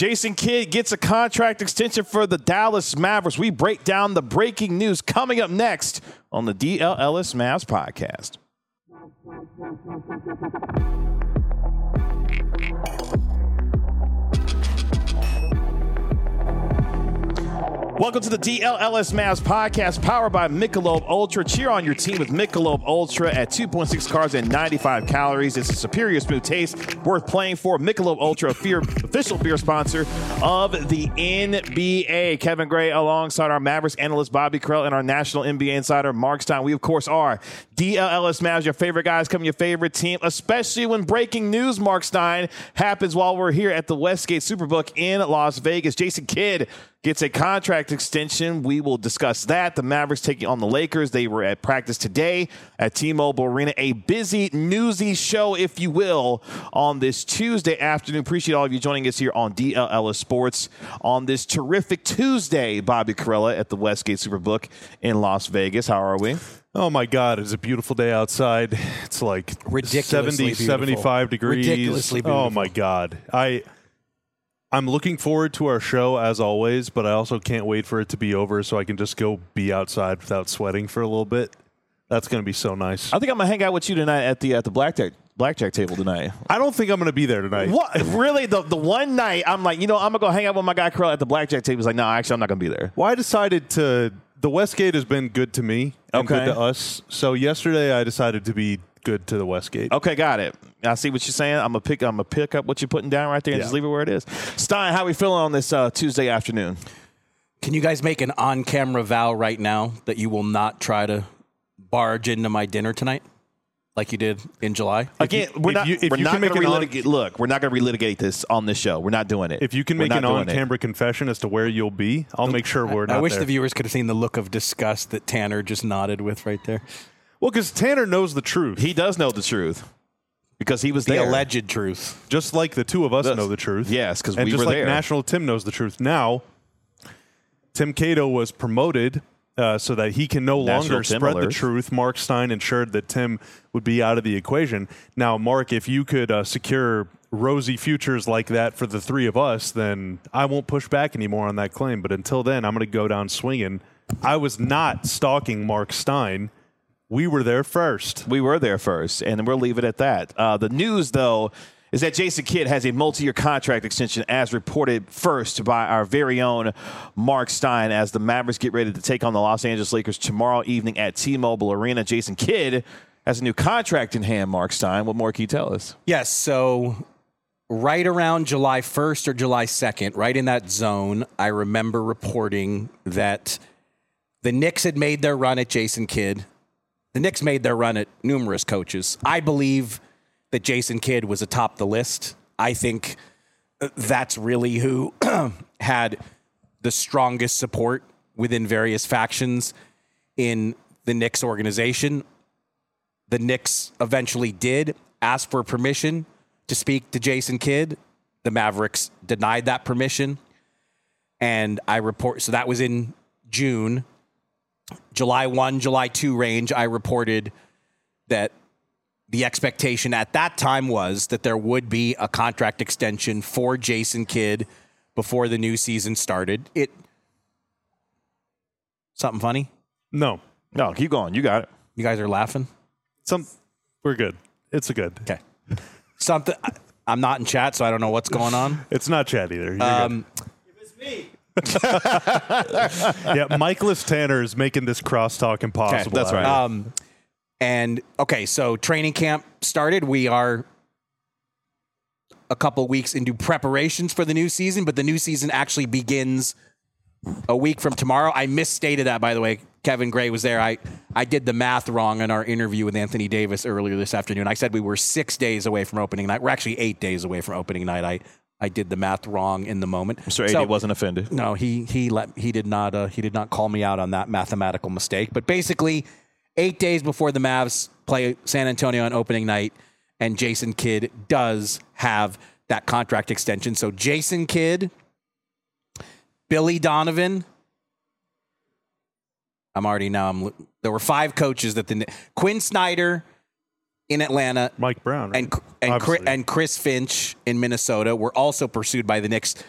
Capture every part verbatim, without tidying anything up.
Jason Kidd gets a contract extension for the Dallas Mavericks. We break down the breaking news coming up next on the D L Ellis Mavs podcast. Welcome to the D L L S Mavs podcast, powered by Michelob Ultra. Cheer on your team with Michelob Ultra at two point six carbs and ninety-five calories. It's a superior smooth taste worth playing for. Michelob Ultra, a fear, official beer sponsor of the N B A. Kevin Gray alongside our Mavericks analyst Bobby Krell and our national N B A insider Mark Stein. We, of course, are D L L S Mavs, your favorite guys, coming your favorite team, especially when breaking news, Mark Stein, happens while we're here at the Westgate Superbook in Las Vegas. Jason Kidd gets a contract extension. We will discuss that. The Mavericks taking on the Lakers. They were at practice today at T-Mobile Arena. A busy, newsy show, if you will, on this Tuesday afternoon. Appreciate all of you joining us here on D L L S Sports on this terrific Tuesday. Bobby Carella at the Westgate Superbook in Las Vegas. How are we? Oh, my God. It's a beautiful day outside. It's like seventy, sevenfive degrees. Ridiculously beautiful. Oh, my God. I... I'm looking forward to our show, as always, but I also can't wait for it to be over so I can just go be outside without sweating for a little bit. That's going to be so nice. I think I'm going to hang out with you tonight at the at the blackjack blackjack table tonight. I don't think I'm going to be there tonight. What? Really? The the one night, I'm like, you know, I'm going to go hang out with my guy Curl at the blackjack table. He's like, no, actually, I'm not going to be there. Well, I decided to – the Westgate has been good to me and Okay. good to us. So yesterday I decided to be good to the Westgate. Okay, got it. I see what you're saying. I'm gonna pick. I'm gonna pick up what you're putting down right there and Yeah. just leave it where it is. Stein, how we feeling on this uh, Tuesday afternoon? Can you guys make an on-camera vow right now that you will not try to barge into my dinner tonight like you did in July? Again, you- we're if not. you- if we're you not can going to make an on- relitigate. Look, we're not going to relitigate this on this show. We're not doing it. If you can We're make not an doing it. on-camera confession as to where you'll be, I'll make sure we're not I wish there. the viewers could have seen the look of disgust that Tanner just nodded with right there. Well, because Tanner knows the truth. He does know the truth because he was The there. alleged truth. Just like the two of us Does. know the truth. Yes, 'cause And we just were like there. National Tim knows the truth. Now, Tim Cato was promoted uh, so that he can no National longer Tim spread alert. the truth. Mark Stein ensured that Tim would be out of the equation. Now, Mark, if you could uh, secure rosy futures like that for the three of us, then I won't push back anymore on that claim. But until then, I'm going to go down swinging. I was not stalking Mark Stein. We were there first. We were there first, and we'll leave it at that. Uh, the news, though, is that Jason Kidd has a multi-year contract extension, as reported first by our very own Mark Stein, as the Mavericks get ready to take on the Los Angeles Lakers tomorrow evening at T-Mobile Arena. Jason Kidd has a new contract in hand, Mark Stein. What more can you tell us? Yes, so right around July first or July second, right in that zone, I remember reporting that the Knicks had made their run at Jason Kidd. The Knicks made their run at numerous coaches. I believe that Jason Kidd was atop the list. I think that's really who had the strongest support within various factions in the Knicks organization. The Knicks eventually did ask for permission to speak to Jason Kidd. The Mavericks denied that permission. And I report, so that was in June. July first, July second range, I reported that the expectation at that time was that there would be a contract extension for Jason Kidd before the new season started. It something funny? No. No, keep going. You got it. You guys are laughing? Some, we're good. It's a good. Okay. Something I, I'm not in chat, so I don't know what's going on. It's not chat either. You're Um, yeah, Michaelis Tanner is making this crosstalk impossible. that's right. Um, and okay, so training camp started. We are a couple weeks into preparations for the new season, but the new season actually begins a week from tomorrow. I misstated that, by the way. Kevin Gray was there. I, I did the math wrong in our interview with Anthony Davis earlier this afternoon. I said we were six days away from opening night. We're actually eight days away from opening night. I, I did the math wrong in the moment. Mister A D So- wasn't offended. No, he he let he did not uh, he did not call me out on that mathematical mistake. But basically, eight days before the Mavs play San Antonio on opening night, and Jason Kidd does have that contract extension. So Jason Kidd, Billy Donovan. I'm already now. I'm there were five coaches that the Quinn Snyder in Atlanta, Mike Brown, right? and and Chris, and Chris Finch in Minnesota were also pursued by the Knicks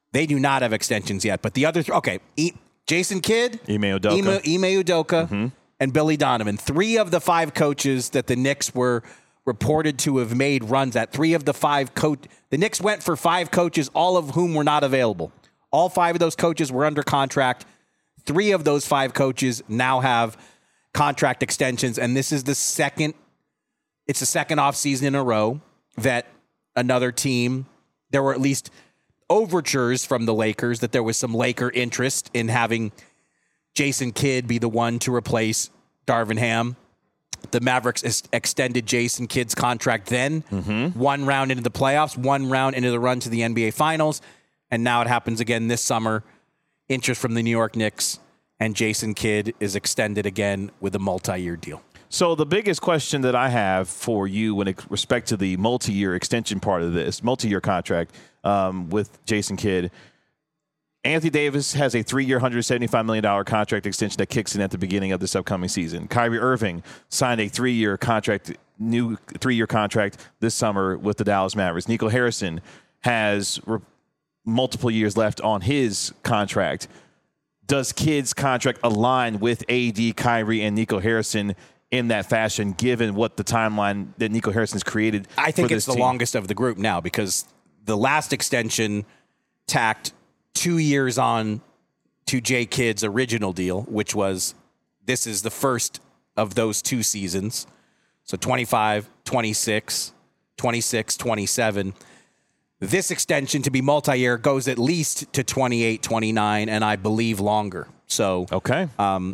They do not have extensions yet. But the other th- okay, e- Jason Kidd, Ime Udoka, Ime, Ime Udoka, mm-hmm. and Billy Donovan. Three of the five coaches that the Knicks were reported to have made runs at. Three of the five coach. The Knicks went for five coaches, all of whom were not available. All five of those coaches were under contract. Three of those five coaches now have contract extensions, and this is the second. It's the second offseason in a row that another team. There were at least overtures from the Lakers that there was some Laker interest in having Jason Kidd be the one to replace Darvin Ham. The Mavericks ex- extended Jason Kidd's contract then, mm-hmm. one round into the playoffs, one round into the run to the N B A Finals, and now it happens again this summer. Interest from the New York Knicks, and Jason Kidd is extended again with a multi-year deal. So the biggest question that I have for you when it respect to the multi-year extension part of this, multi-year contract um, with Jason Kidd, Anthony Davis has a three-year, one hundred seventy-five million dollars contract extension that kicks in at the beginning of this upcoming season. Kyrie Irving signed a three-year contract, new three-year contract this summer with the Dallas Mavericks. Nico Harrison has re- multiple years left on his contract. Does Kidd's contract align with A D, Kyrie, and Nico Harrison in that fashion, given what the timeline that Nico Harrison's created? I think for it's this the team? longest of the group now because the last extension tacked two years on to J. Kidd's original deal, which was this is the first of those two seasons. So twenty-five, twenty-six, twenty-six, twenty-seven. This extension to be multi-year goes at least to twenty-eight, twenty-nine, and I believe longer. So okay. Um,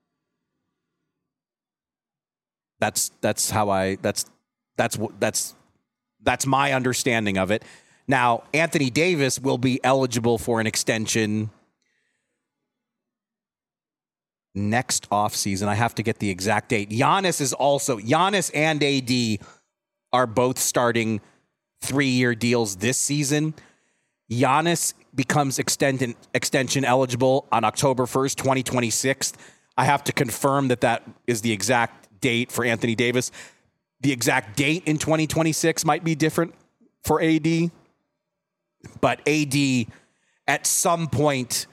That's that's how I that's that's that's that's my understanding of it. Now, Anthony Davis will be eligible for an extension next offseason. I have to get the exact date. Giannis is also Giannis and A D are both starting three-year deals this season. Giannis becomes extend, extension eligible on October first, twenty twenty-six. I have to confirm that that is the exact date for Anthony Davis. The exact date in twenty twenty-six might be different for A D, but A D at some point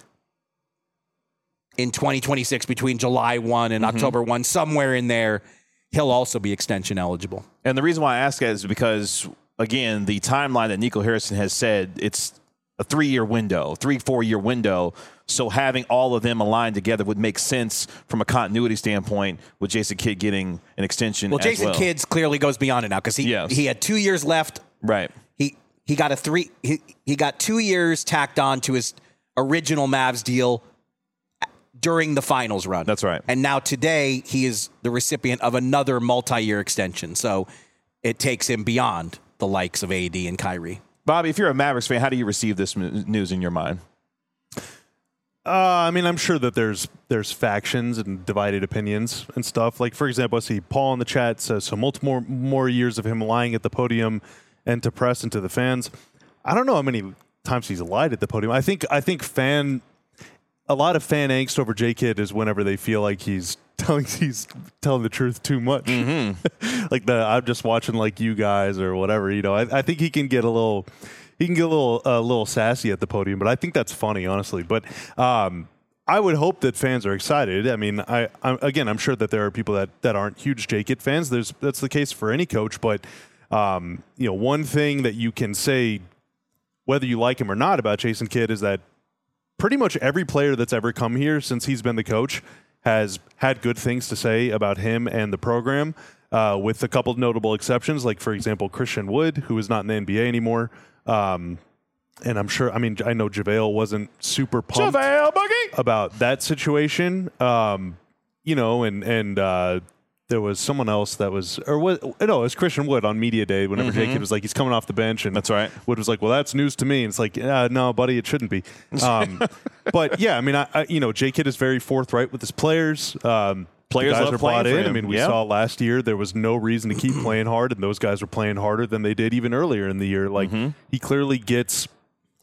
in twenty twenty-six between July first and mm-hmm. October first, somewhere in there, he'll also be extension eligible. And the reason why I ask that is because, again, the timeline that Nico Harrison has said, it's a three-year window, three, four-year window. So having all of them aligned together would make sense from a continuity standpoint with Jason Kidd getting an extension. Well, Jason well. Kidd clearly goes beyond it now because he yes. he had two years left. Right. He he got a three he, he got two years tacked on to his original Mavs deal during the finals run. That's right. And now today he is the recipient of another multi-year extension. So it takes him beyond the likes of A D and Kyrie. Bobby, if you're a Mavericks fan, how do you receive this news in your mind? Uh, I mean, I'm sure that there's there's factions and divided opinions and stuff. Like, for example, I see Paul in the chat says, so multiple more, more years of him lying at the podium and to press and to the fans. I don't know how many times he's lied at the podium. I think I think fan a lot of fan angst over J. Kidd is whenever they feel like he's telling he's telling the truth too much. Mm-hmm. Like the I'm just watching like you guys or whatever. You know, I, I think he can get a little. He can get a little a uh, little sassy at the podium, but I think that's funny, honestly. But um, I would hope that fans are excited. I mean, I I'm, again, I'm sure that there are people that, that aren't huge J. Kidd fans. There's that's the case for any coach. But um, you know, one thing that you can say, whether you like him or not, about Jason Kidd is that pretty much every player that's ever come here since he's been the coach has had good things to say about him and the program, uh, with a couple of notable exceptions, like, for example, Christian Wood, who is not in the N B A anymore. Um, and I'm sure, I mean, I know JaVale wasn't super pumped JaVale Boogie! about that situation. Um, you know, and, and, uh, there was someone else that was, or what, no, it was Christian Wood on Media Day whenever mm-hmm. J. Kidd was like, he's coming off the bench. And that's right. Wood was like, well, that's news to me. And it's like, uh, no, buddy, it shouldn't be. Um, but yeah, I mean, I, I, you know, J. Kidd is very forthright with his players. Um, Players guys love are bought playing in. for him. I mean, we yeah. saw last year there was no reason to keep playing hard, and those guys were playing harder than they did even earlier in the year. Like, mm-hmm. he clearly gets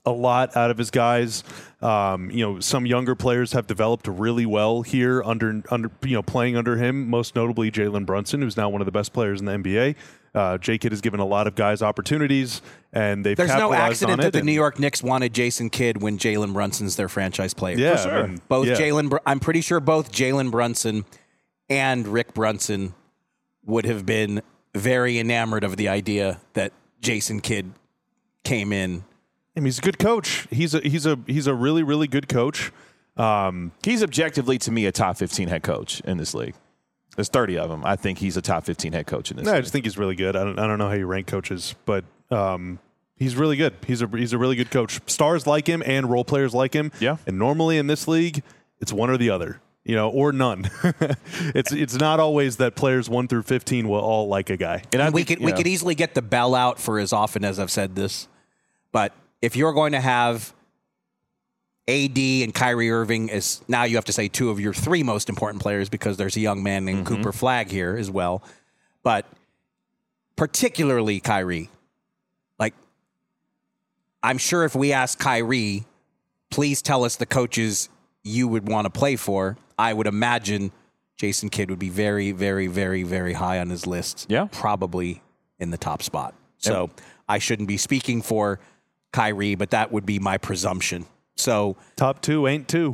a lot out of his guys. Um, you know, some younger players have developed really well here under under you know playing under him. Most notably, Jalen Brunson, who's now one of the best players in the N B A. Uh, J-Kidd has given a lot of guys opportunities, and they've There's no capitalized accident on that it, the and- New York Knicks wanted Jason Kidd when Jalen Brunson's their franchise player. Yeah, For sure. I mean, Both yeah. Jalen, Br- I'm pretty sure both Jalen Brunson and Rick Brunson would have been very enamored of the idea that Jason Kidd came in. I mean, he's a good coach. He's a he's a he's a really really good coach. Um, He's objectively, to me, a top fifteen head coach in this league. There's thirty of them. I think he's a top fifteen head coach in this no, I league. just think he's really good. I don't I don't know how you rank coaches, but um, he's really good. He's a he's a really good coach. Stars like him and role players like him. Yeah. And normally in this league, it's one or the other. You know, or none. it's it's not always that players one through fifteen will all like a guy. And I we think, could we you know, could easily get the bell out for as often as I've said this, but if you're going to have A D and Kyrie Irving as now you have to say two of your three most important players because there's a young man named Mm-hmm. Cooper Flagg here as well, but particularly Kyrie. Like, I'm sure if we ask Kyrie, please tell us the coaches you would want to play for, I would imagine Jason Kidd would be very, very, very, very high on his list. Yeah. Probably in the top spot. So I shouldn't be speaking for Kyrie, but that would be my presumption. So, Top two ain't two.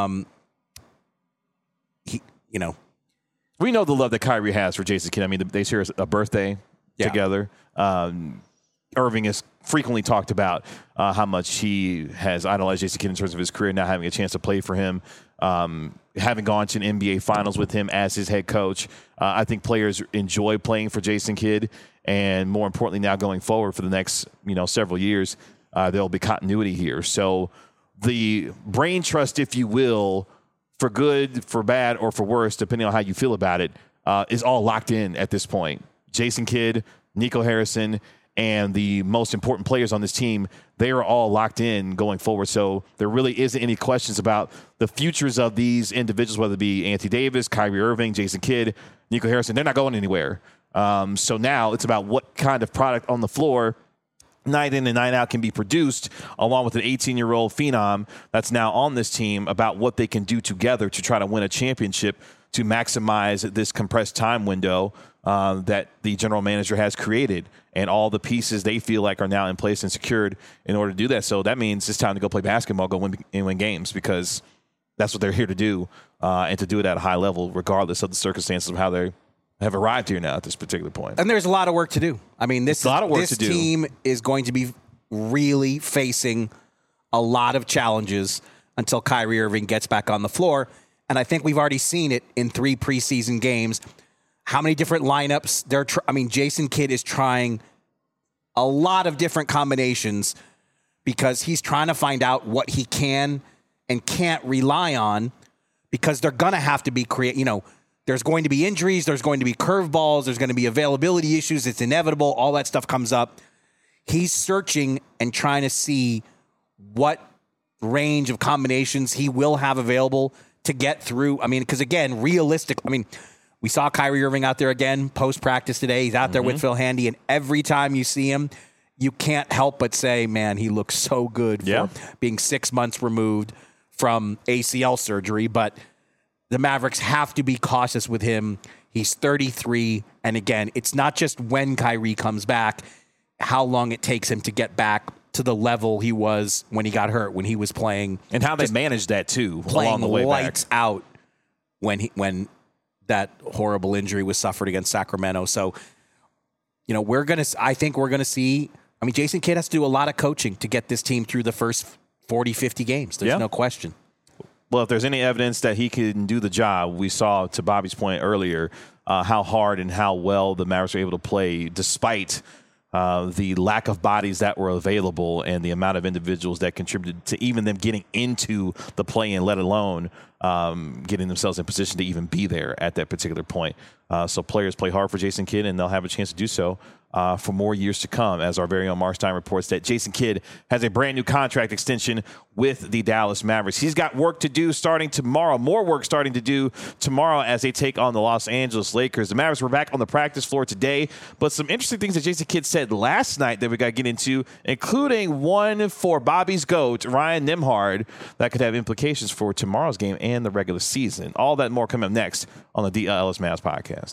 he, you know, we know the love that Kyrie has for Jason Kidd. I mean, they share a birthday Yeah. together. Um, Irving has frequently talked about uh, how much he has idolized Jason Kidd in terms of his career, now having a chance to play for him, um, having gone to an N B A Finals with him as his head coach. Uh, I think players enjoy playing for Jason Kidd, and more importantly, now going forward for the next you know several years, uh, there will be continuity here. So the brain trust, if you will, for good, for bad, or for worse, depending on how you feel about it, uh, is all locked in at this point. Jason Kidd, Nico Harrison, and the most important players on this team, they are all locked in going forward. So there really isn't any questions about the futures of these individuals, whether it be Anthony Davis, Kyrie Irving, Jason Kidd, Nico Harrison. They're not going anywhere. Um, so now it's about what kind of product on the floor night in and night out can be produced, along with an eighteen-year-old phenom that's now on this team, about what they can do together to try to win a championship, to maximize this compressed time window uh, that the general manager has created, and all the pieces they feel like are now in place and secured in order to do that. So that means it's time to go play basketball, go win and win games, because that's what they're here to do, uh, and to do it at a high level, regardless of the circumstances of how they have arrived here now at this particular point. and there's a lot of work to do. I mean, this, a lot of work this to do. team is going to be really facing a lot of challenges until Kyrie Irving gets back on the floor. And I think we've already seen it in three preseason games. How many different lineups they're tr- I mean, Jason Kidd is trying a lot of different combinations because he's trying to find out what he can and can't rely on, because they're going to have to be create, you know, there's going to be injuries, there's going to be curveballs, there's going to be availability issues, it's inevitable, all that stuff comes up. He's searching and trying to see what range of combinations he will have available to get through. I mean, because again, realistic, I mean, we saw Kyrie Irving out there again post-practice today. He's out there with Phil Handy, and every time you see him, you can't help but say, man, he looks so good for Yeah. being six months removed from A C L surgery. But the Mavericks have to be cautious with him. He's thirty-three, and again, it's not just when Kyrie comes back, how long it takes him to get back to the level he was when he got hurt, when he was playing And how they managed that, too, playing along the way lights back. out when he when that horrible injury was suffered against Sacramento. So, you know, we're gonna. I think we're gonna see. I mean, Jason Kidd has to do a lot of coaching to get this team through the first forty, fifty games. There's Yeah. no question. Well, if there's any evidence that he can do the job, we saw, to Bobby's point earlier, uh, how hard and how well the Mavericks were able to play despite uh, the lack of bodies that were available and the amount of individuals that contributed to even them getting into the play-in, let alone um, getting themselves in position to even be there at that particular point. Uh, so players play hard for Jason Kidd, and they'll have a chance to do so uh, for more years to come, as our very own Mark Stein reports that Jason Kidd has a brand new contract extension with the Dallas Mavericks. He's got work to do starting tomorrow, more work starting to do tomorrow as they take on the Los Angeles Lakers. The Mavericks were back on the practice floor today, but some interesting things that Jason Kidd said last night that we got to get into, including one for Bobby's GOAT, Ryan Nembhard, that could have implications for tomorrow's game and the regular season. All that and more coming up next on the D L L S Mavs podcast.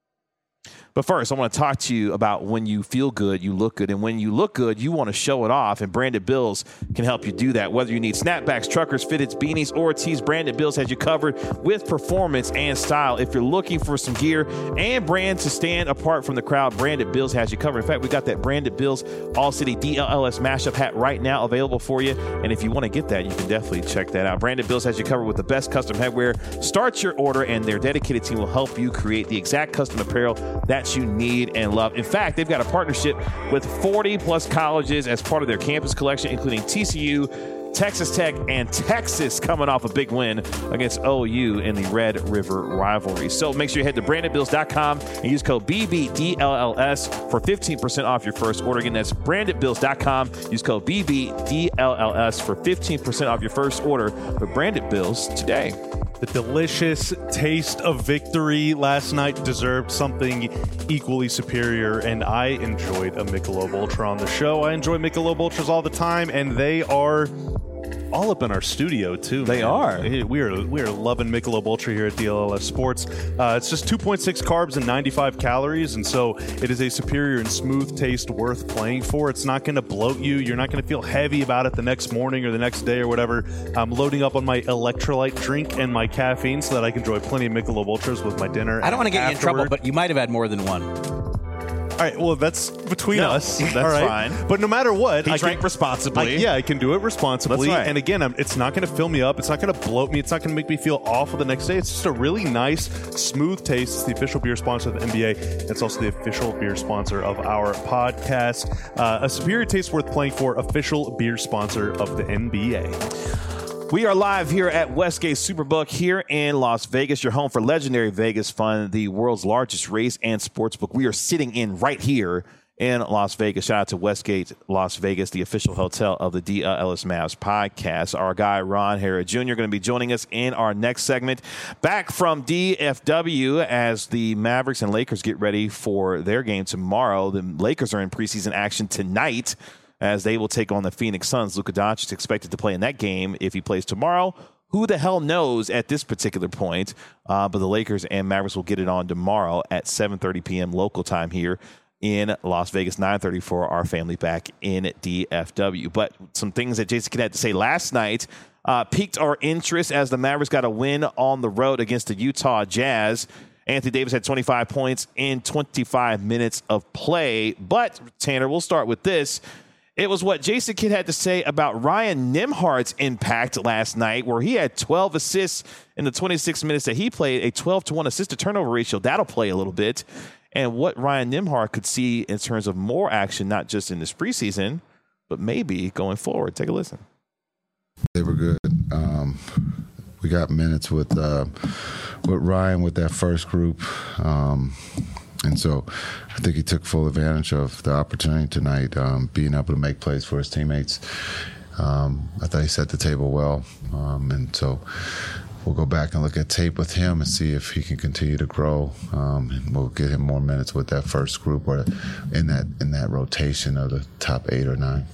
But first, I want to talk to you about when you feel good, you look good. And when you look good, you want to show it off. And Branded Bills can help you do that. Whether you need snapbacks, truckers, fitteds, beanies, or tees, Branded Bills has you covered with performance and style. If you're looking for some gear and brand to stand apart from the crowd, Branded Bills has you covered. In fact, we got that Branded Bills All-City D L L S mashup hat right now available for you. And if you want to get that, you can definitely check that out. Branded Bills has you covered with the best custom headwear. Start your order, and their dedicated team will help you create the exact custom apparel that you need and love. In fact, they've got a partnership with forty plus colleges as part of their campus collection, including T C U, Texas Tech, and Texas coming off a big win against O U in the Red River rivalry. So make sure you head to branded bills dot com and use code B B D L L S for fifteen percent off your first order. Again, that's branded bills dot com. Use code B B D L L S for fifteen percent off your first order with Branded Bills today. The delicious taste of victory last night deserved something equally superior, and I enjoyed a Michelob Ultra on the show. I enjoy Michelob Ultras all the time, and they are all up in our studio too. They man. are. We are we are loving Michelob Ultra here at D L L S Sports. Uh, it's just two point six carbs and ninety-five calories, and so it is a superior and smooth taste worth playing for. It's not going to bloat you. You're not going to feel heavy about it the next morning or the next day or whatever. I'm loading up on my electrolyte drink and my caffeine so that I can enjoy plenty of Michelob Ultras with my dinner. I don't want to get afterward. you in trouble, but you might have had more than one. All right, well, that's between no, us. That's all right? fine. But no matter what, He I drank can, responsibly. I, yeah, I can do it responsibly. That's right. And again, I'm, it's not going to fill me up. It's not going to bloat me. It's not going to make me feel awful the next day. It's just a really nice, smooth taste. It's the official beer sponsor of the N B A. It's also the official beer sponsor of our podcast. Uh, a superior taste worth playing for, official beer sponsor of the N B A. We are live here at Westgate Superbook here in Las Vegas, your home for legendary Vegas fun, the world's largest race and sports book. We are sitting in right here in Las Vegas. Shout out to Westgate Las Vegas, the official hotel of the D L L S Mavs podcast. Our guy, Ron Hara Junior, going to be joining us in our next segment. Back from D F W as the Mavericks and Lakers get ready for their game tomorrow. The Lakers are in preseason action tonight as they will take on the Phoenix Suns. Luka Doncic is expected to play in that game. If he plays tomorrow, who the hell knows at this particular point? Uh, but the Lakers and Mavericks will get it on tomorrow at seven thirty p.m. local time here in Las Vegas, nine thirty for our family back in D F W. But some things that Jason Kidd had to say last night uh, piqued our interest as the Mavericks got a win on the road against the Utah Jazz. Anthony Davis had twenty-five points in twenty-five minutes of play. But, Tanner, we'll start with this. It was what Jason Kidd had to say about Ryan Nembhard's impact last night, where he had twelve assists in the twenty-six minutes that he played, a twelve to one assist-to-turnover ratio. That'll play a little bit. And what Ryan Nembhard could see in terms of more action, not just in this preseason, but maybe going forward. Take a listen. They were good. Um, we got minutes with uh, with Ryan with that first group. Um, and so I think he took full advantage of the opportunity tonight, um, being able to make plays for his teammates. Um, I thought he set the table well. Um, and so we'll go back and look at tape with him and see if he can continue to grow. Um, and we'll get him more minutes with that first group or in that in that rotation of the top eight or nine.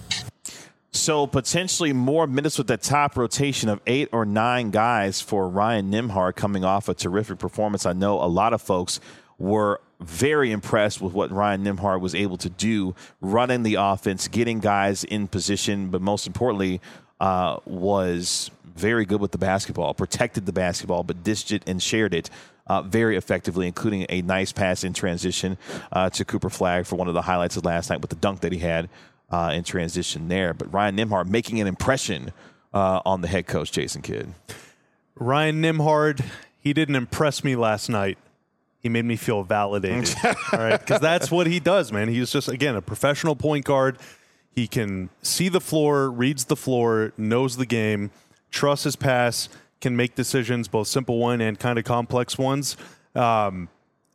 So potentially more minutes with the top rotation of eight or nine guys for Ryan Nembhard coming off a terrific performance. I know a lot of folks were very impressed with what Ryan Nembhard was able to do, running the offense, getting guys in position, but most importantly, uh, was very good with the basketball, protected the basketball, but dished it and shared it uh, very effectively, including a nice pass in transition uh, to Cooper Flagg for one of the highlights of last night with the dunk that he had uh, in transition there. But Ryan Nembhard making an impression uh, on the head coach, Jason Kidd. Ryan Nembhard, he didn't impress me last night. He made me feel validated, all right? Because that's what he does, man. He's just, again, a professional point guard. He can see the floor, reads the floor, knows the game, trusts his pass, can make decisions, both simple one and kind of complex ones. Um,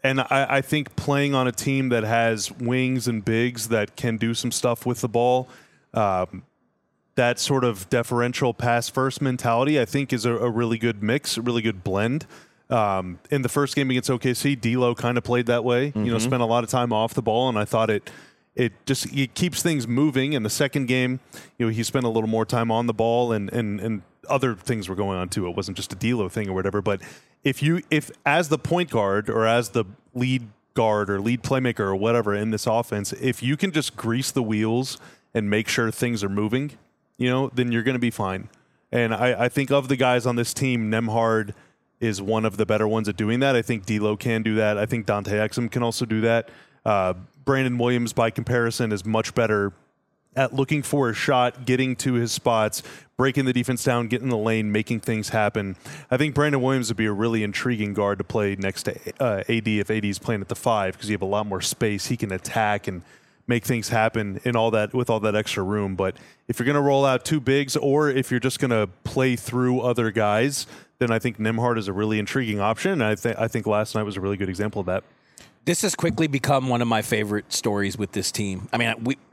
And I, I think playing on a team that has wings and bigs that can do some stuff with the ball, um, that sort of deferential pass-first mentality, I think, is a, a really good mix, a really good blend. Um, in the first game against O K C, D'Lo kind of played that way. Mm-hmm. You know, spent a lot of time off the ball, and I thought it it just it keeps things moving. In the second game, you know, he spent a little more time on the ball, and and and other things were going on too. It wasn't just a D'Lo thing or whatever. But if you if as the point guard or as the lead guard or lead playmaker or whatever in this offense, if you can just grease the wheels and make sure things are moving, you know, then you're going to be fine. And I, I think of the guys on this team, Nembhard is one of the better ones at doing that. I think D'Lo can do that. I think Dante Exum can also do that. Uh, Brandon Williams, by comparison, is much better at looking for a shot, getting to his spots, breaking the defense down, getting in the lane, making things happen. I think Brandon Williams would be a really intriguing guard to play next to uh, A D if A D is playing at the five, because you have a lot more space. He can attack and make things happen in all that with all that extra room. But if you're going to roll out two bigs, or if you're just going to play through other guys, then I think Nembhard is a really intriguing option. And I think I think last night was a really good example of that. This has quickly become one of my favorite stories with this team. I mean, we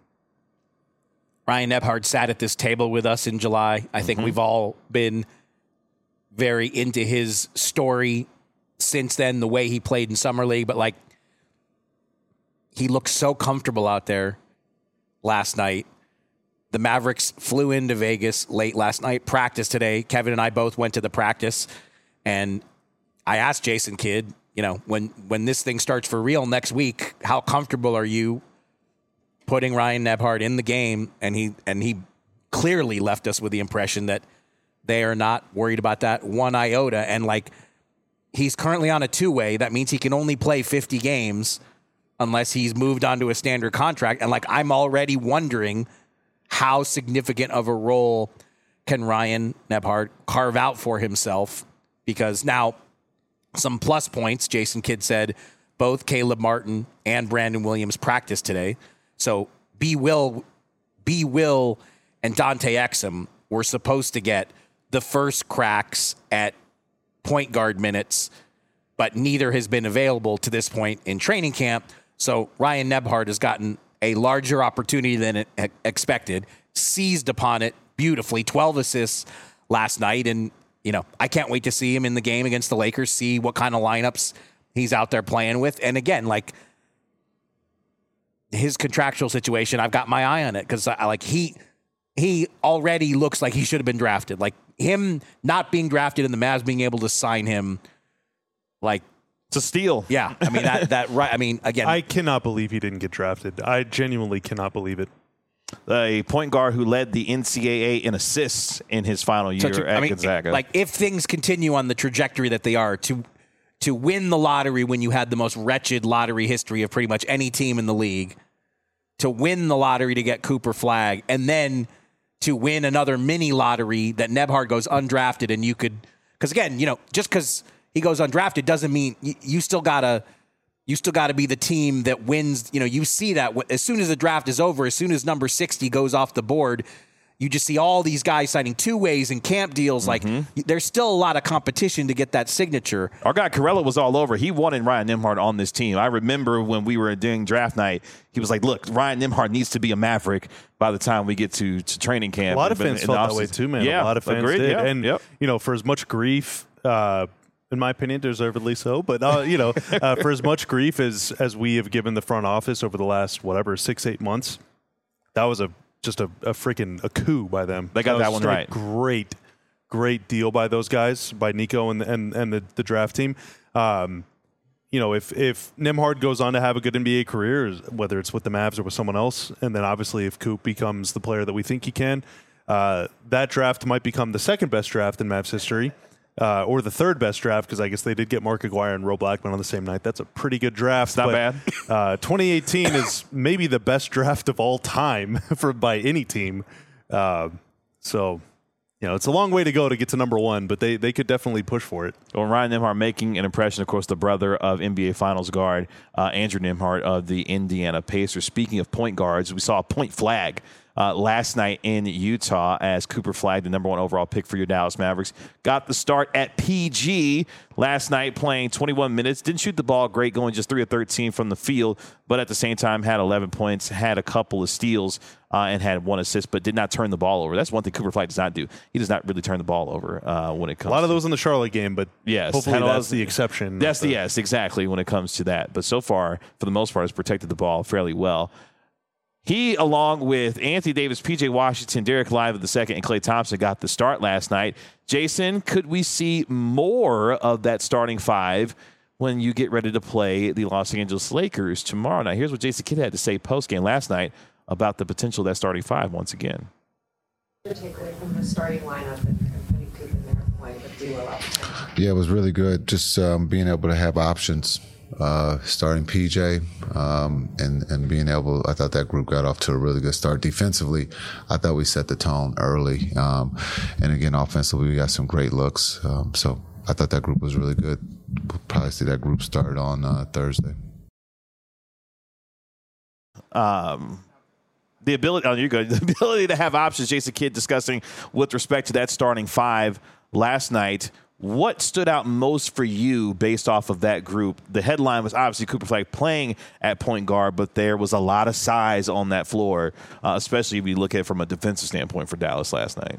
Ryan Nembhard sat at this table with us in July. I think mm-hmm. we've all been very into his story since then, the way he played in Summer League. But, like, he looked so comfortable out there last night. The Mavericks flew into Vegas late last night, practiced today. Kevin and I both went to the practice, and I asked Jason Kidd, you know, when, when this thing starts for real next week, how comfortable are you putting Ryan Nembhard in the game? And he and he clearly left us with the impression that they are not worried about that one iota. And, like, he's currently on a two-way. That means he can only play fifty games unless he's moved on to a standard contract. And, like, I'm already wondering how significant of a role can Ryan Nembhard carve out for himself? Because now, some plus points, Jason Kidd said, both Caleb Martin and Brandon Williams practiced today. So B. Will, B. Will and Dante Exum were supposed to get the first cracks at point guard minutes, but neither has been available to this point in training camp. So Ryan Nembhard has gotten a larger opportunity than it expected, seized upon it beautifully, twelve assists last night. And, you know, I can't wait to see him in the game against the Lakers, see what kind of lineups he's out there playing with. And again, like, his contractual situation, I've got my eye on it, because I like he he already looks like he should have been drafted. Like, him not being drafted and the Mavs being able to sign him, like, it's a steal. Yeah, I mean that that right. I mean, again, I cannot believe he didn't get drafted. I genuinely cannot believe it. A point guard who led the N C double A in assists in his final year to, at I mean, Gonzaga. Like, if things continue on the trajectory that they are, to to win the lottery when you had the most wretched lottery history of pretty much any team in the league, to win the lottery to get Cooper Flagg, and then to win another mini lottery that Nembhard goes undrafted, and you could, because again, you know, just because he goes undrafted doesn't mean you, you still gotta you still gotta be the team that wins. You know, you see that as soon as the draft is over, as soon as number sixty goes off the board, you just see all these guys signing two ways and camp deals. Mm-hmm. Like, there's still a lot of competition to get that signature. Our guy Corella was all over. He wanted Ryan Nembhard on this team. I remember when we were doing draft night, he was like, look, Ryan Nembhard needs to be a Maverick by the time we get to, to training camp. A lot of fans felt that way too, man. Yeah, a lot of fans agreed, did. yeah, and, yep. you know, for as much grief, uh, in my opinion, deservedly so, but, uh, you know, uh, for as much grief as, as we have given the front office over the last, whatever, six, eight months, that was a just a, a freaking a coup by them. They got that, that one right. Great, great deal by those guys, by Nico and and, and the, the draft team. Um, you know, if if Nembhard goes on to have a good N B A career, whether it's with the Mavs or with someone else, and then obviously if Coop becomes the player that we think he can, uh, that draft might become the second best draft in Mavs history. Uh, or the third best draft, because I guess they did get Mark Aguirre and Ro Blackman on the same night. That's a pretty good draft. It's not but, bad. uh, twenty eighteen is maybe the best draft of all time for by any team. Uh, so, you know, it's a long way to go to get to number one, but they, they could definitely push for it. Well, Ryan Nembhard making an impression, of course, the brother of N B A Finals guard uh, Andrew Nembhard of the Indiana Pacers. Speaking of point guards, we saw a point flag uh, last night in Utah as Cooper Flagg, the number one overall pick for your Dallas Mavericks, got the start at P G last night, playing twenty-one minutes. Didn't shoot the ball great, going just three of thirteen from the field, but at the same time had eleven points, had a couple of steals, uh, and had one assist, but did not turn the ball over. That's one thing Cooper Flagg does not do. He does not really turn the ball over uh, when it comes to... A lot of those in the Charlotte game, but yes, hopefully that's of, the exception. That's the, yes, exactly, when it comes to that. But so far, for the most part, has protected the ball fairly well. He, along with Anthony Davis, P J Washington, Derek Lively the second, and Klay Thompson, got the start last night. Jason, could we see more of that starting five when you get ready to play the Los Angeles Lakers tomorrow night? Here's what Jason Kidd had to say post-game last night about the potential of that starting five once again. Your takeaway from the starting lineup and putting Coop in there, like a duo out there? Yeah, it was really good. Just um, being able to have options. Uh, starting P J um, and and being able, I thought that group got off to a really good start. Defensively, I thought we set the tone early, um, and again, offensively, we got some great looks. Um, so I thought that group was really good. We'll probably see that group start on uh, Thursday. Um. The ability, oh, you're good. The ability to have options, Jason Kidd discussing with respect to that starting five last night. What stood out most for you based off of that group? The headline was obviously Cooper Flagg playing at point guard, but there was a lot of size on that floor, uh, especially if you look at it from a defensive standpoint for Dallas last night.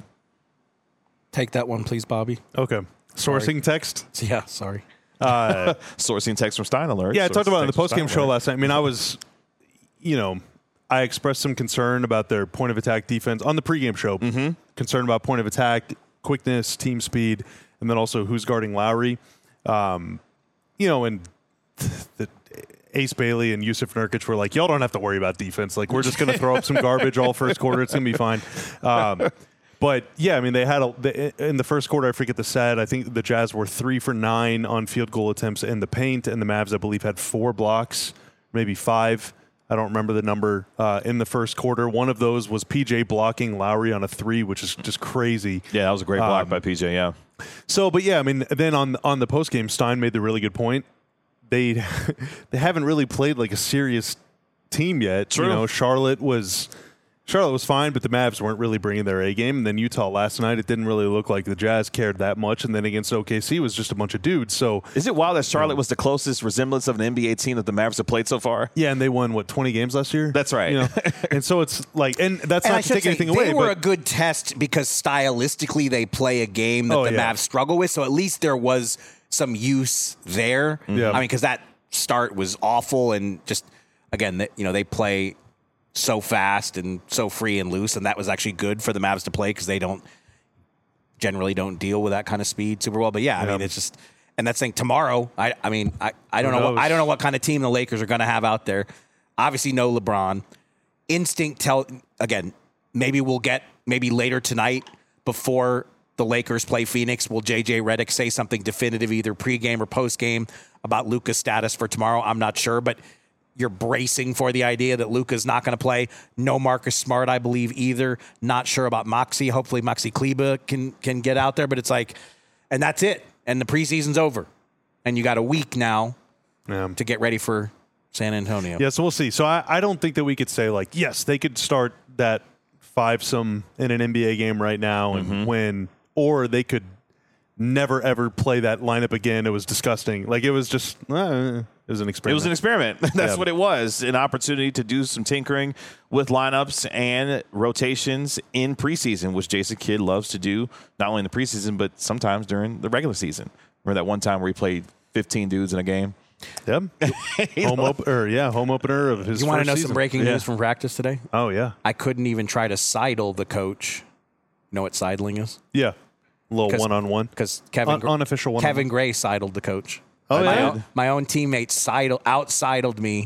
Take that one, please, Bobby. Okay. Sourcing Sorry. text? Yeah, sorry. Uh, Sourcing text from Stein Alert. yeah, I talked Sourcing about it in the text from post-game Stein show Alert. last night. I mean, I was, you know, I expressed some concern about their point of attack defense on the pregame show. Mm-hmm. Concern about point of attack, quickness, team speed, and then also who's guarding Lowry. Um, you know, and the Ace Bailey and Yusuf Nurkic were like, y'all don't have to worry about defense. Like, we're just going to throw up some garbage all first quarter. It's going to be fine. Um, but, yeah, I mean, they had a they, in the first quarter, I forget the stat, I think the Jazz were three for nine on field goal attempts in the paint, and the Mavs, I believe, had four blocks, maybe five. I don't remember the number uh, in the first quarter. One of those was P J blocking Lowry on a three, which is just crazy. Yeah, that was a great block Um, by P J, yeah. So, but yeah, I mean, then on on the postgame, Stein made the really good point. They they haven't really played like a serious team yet. True. You know, Charlotte was Charlotte was fine, but the Mavs weren't really bringing their A game. And then Utah last night, it didn't really look like the Jazz cared that much. And then against O K C, it was just a bunch of dudes. So Is it wild that Charlotte was the closest resemblance of an N B A team that the Mavs have played so far? yeah, and they won what twenty games last year. That's right. You know? And so it's like, and that's And I not to should take say, anything they away. were but a good test because stylistically they play a game that Oh, the yeah. Mavs struggle with. So at least there was some use there. Yeah. I mean, because that start was awful, and just again, that you know, they play so fast and so free and loose, and that was actually good for the Mavs to play because they don't generally don't deal with that kind of speed super well. But yeah, I Yeah. mean, it's just, and that's saying tomorrow. I, I mean, I, I don't Who know. What, knows? I don't know what kind of team the Lakers are going to have out there. Obviously, no LeBron. Instinct tell again. Maybe we'll get maybe later tonight before the Lakers play Phoenix. Will J J Redick say something definitive, either pregame or postgame, about Luka's status for tomorrow? I'm not sure, but you're bracing for the idea that Luka's not going to play. No Marcus Smart, I believe, either. Not sure about Moxie. Hopefully Maxi Kleba can can get out there, but it's like, and that's it. And the preseason's over. And you got a week now Yeah. to get ready for San Antonio. Yeah, so we'll see. So I, I don't think that we could say, like, yes, they could start that five-some in an N B A game right now and Mm-hmm. win, or they could never, ever play that lineup again. It was disgusting. Like, it was just, uh, it was an It experiment. was an experiment. That's Yeah. what it was. An opportunity to do some tinkering with lineups and rotations in preseason, which Jason Kidd loves to do, not only in the preseason, but sometimes during the regular season. Remember that one time where he played fifteen dudes in a game? Yep. home op- or, yeah, home opener of his You want to first know season. some breaking Yeah. news from practice today? Oh, yeah. I couldn't even try to sidle the coach. Know what sidling is? Yeah. A little 'Cause- one-on-one. Because Kevin Un- Gr- unofficial one-on-one. Kevin Gray sidled the coach. Oh, my yeah? Own, my own teammate sidle out-sidled me.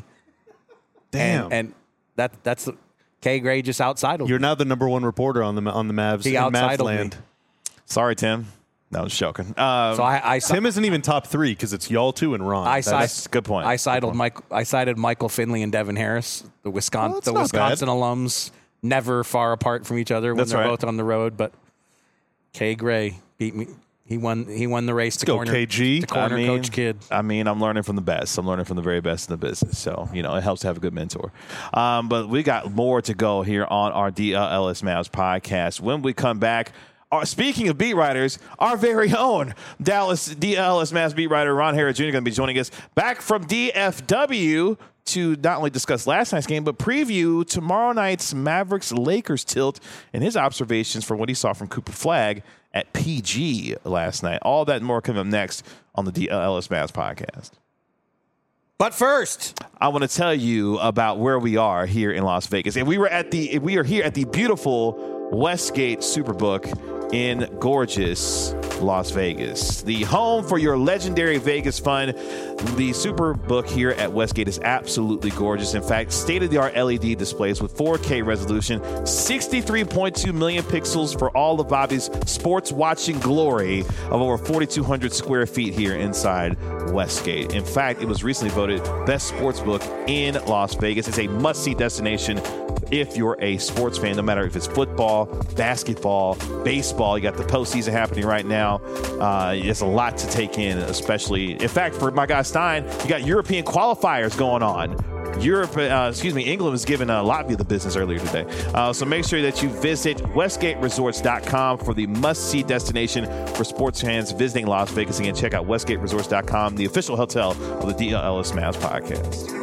Damn. And, and that that's the K Gray just out-sidled. You're now the number one reporter on the on the Mavs He in out-sidled Mavs land. me. Sorry, Tim. No, I'm just joking. Um, So I I, si- Tim isn't even top three because it's y'all two and Ron. I That's- si- that's a good point. I Good sidled point. Mike. I sided Michael Finley and Devin Harris, the Wisconsin Well, that's the not Wisconsin alums, never far apart from each other when That's they're right. both on the road. But K Gray beat me. He won. He won the race to go, corner. K G. To corner I mean, coach kid. I mean, I'm learning from the best. I'm learning from the very best in the business. So, you know, it helps to have a good mentor. Um, but we got more to go here on our D L L S Mavs podcast. When we come back, our, speaking of beat writers, our very own Dallas D L L S Mavs beat writer Ron Hara Junior going to be joining us back from D F W to not only discuss last night's game, but preview tomorrow night's Mavericks-Lakers tilt and his observations from what he saw from Cooper Flagg at P G last night. All that and more coming up next on the D L L S Mavs podcast. But first, I want to tell you about where we are here in Las Vegas. And we were at the we are here at the beautiful Westgate Superbook in gorgeous Las Vegas, the home for your legendary Vegas fun. The Superbook here at Westgate is absolutely gorgeous. In fact, state-of-the-art L E D displays with four K resolution, sixty-three point two million pixels for all of Bobby's sports watching glory of over forty-two hundred square feet here inside Westgate. In fact, it was recently voted best sports book in Las Vegas. It's a must-see destination if you're a sports fan, no matter if it's football, basketball, baseball. You got the postseason happening right now. Uh, it's a lot to take in, especially, in fact, for my guy Stein, you got European qualifiers going on. Europe, uh, excuse me, England was giving uh, Latvia the business earlier today. Uh, so make sure that you visit westgate resorts dot com for the must-see destination for sports fans visiting Las Vegas. Again, check out westgate resorts dot com, the official hotel of the D L L S Mavs podcast.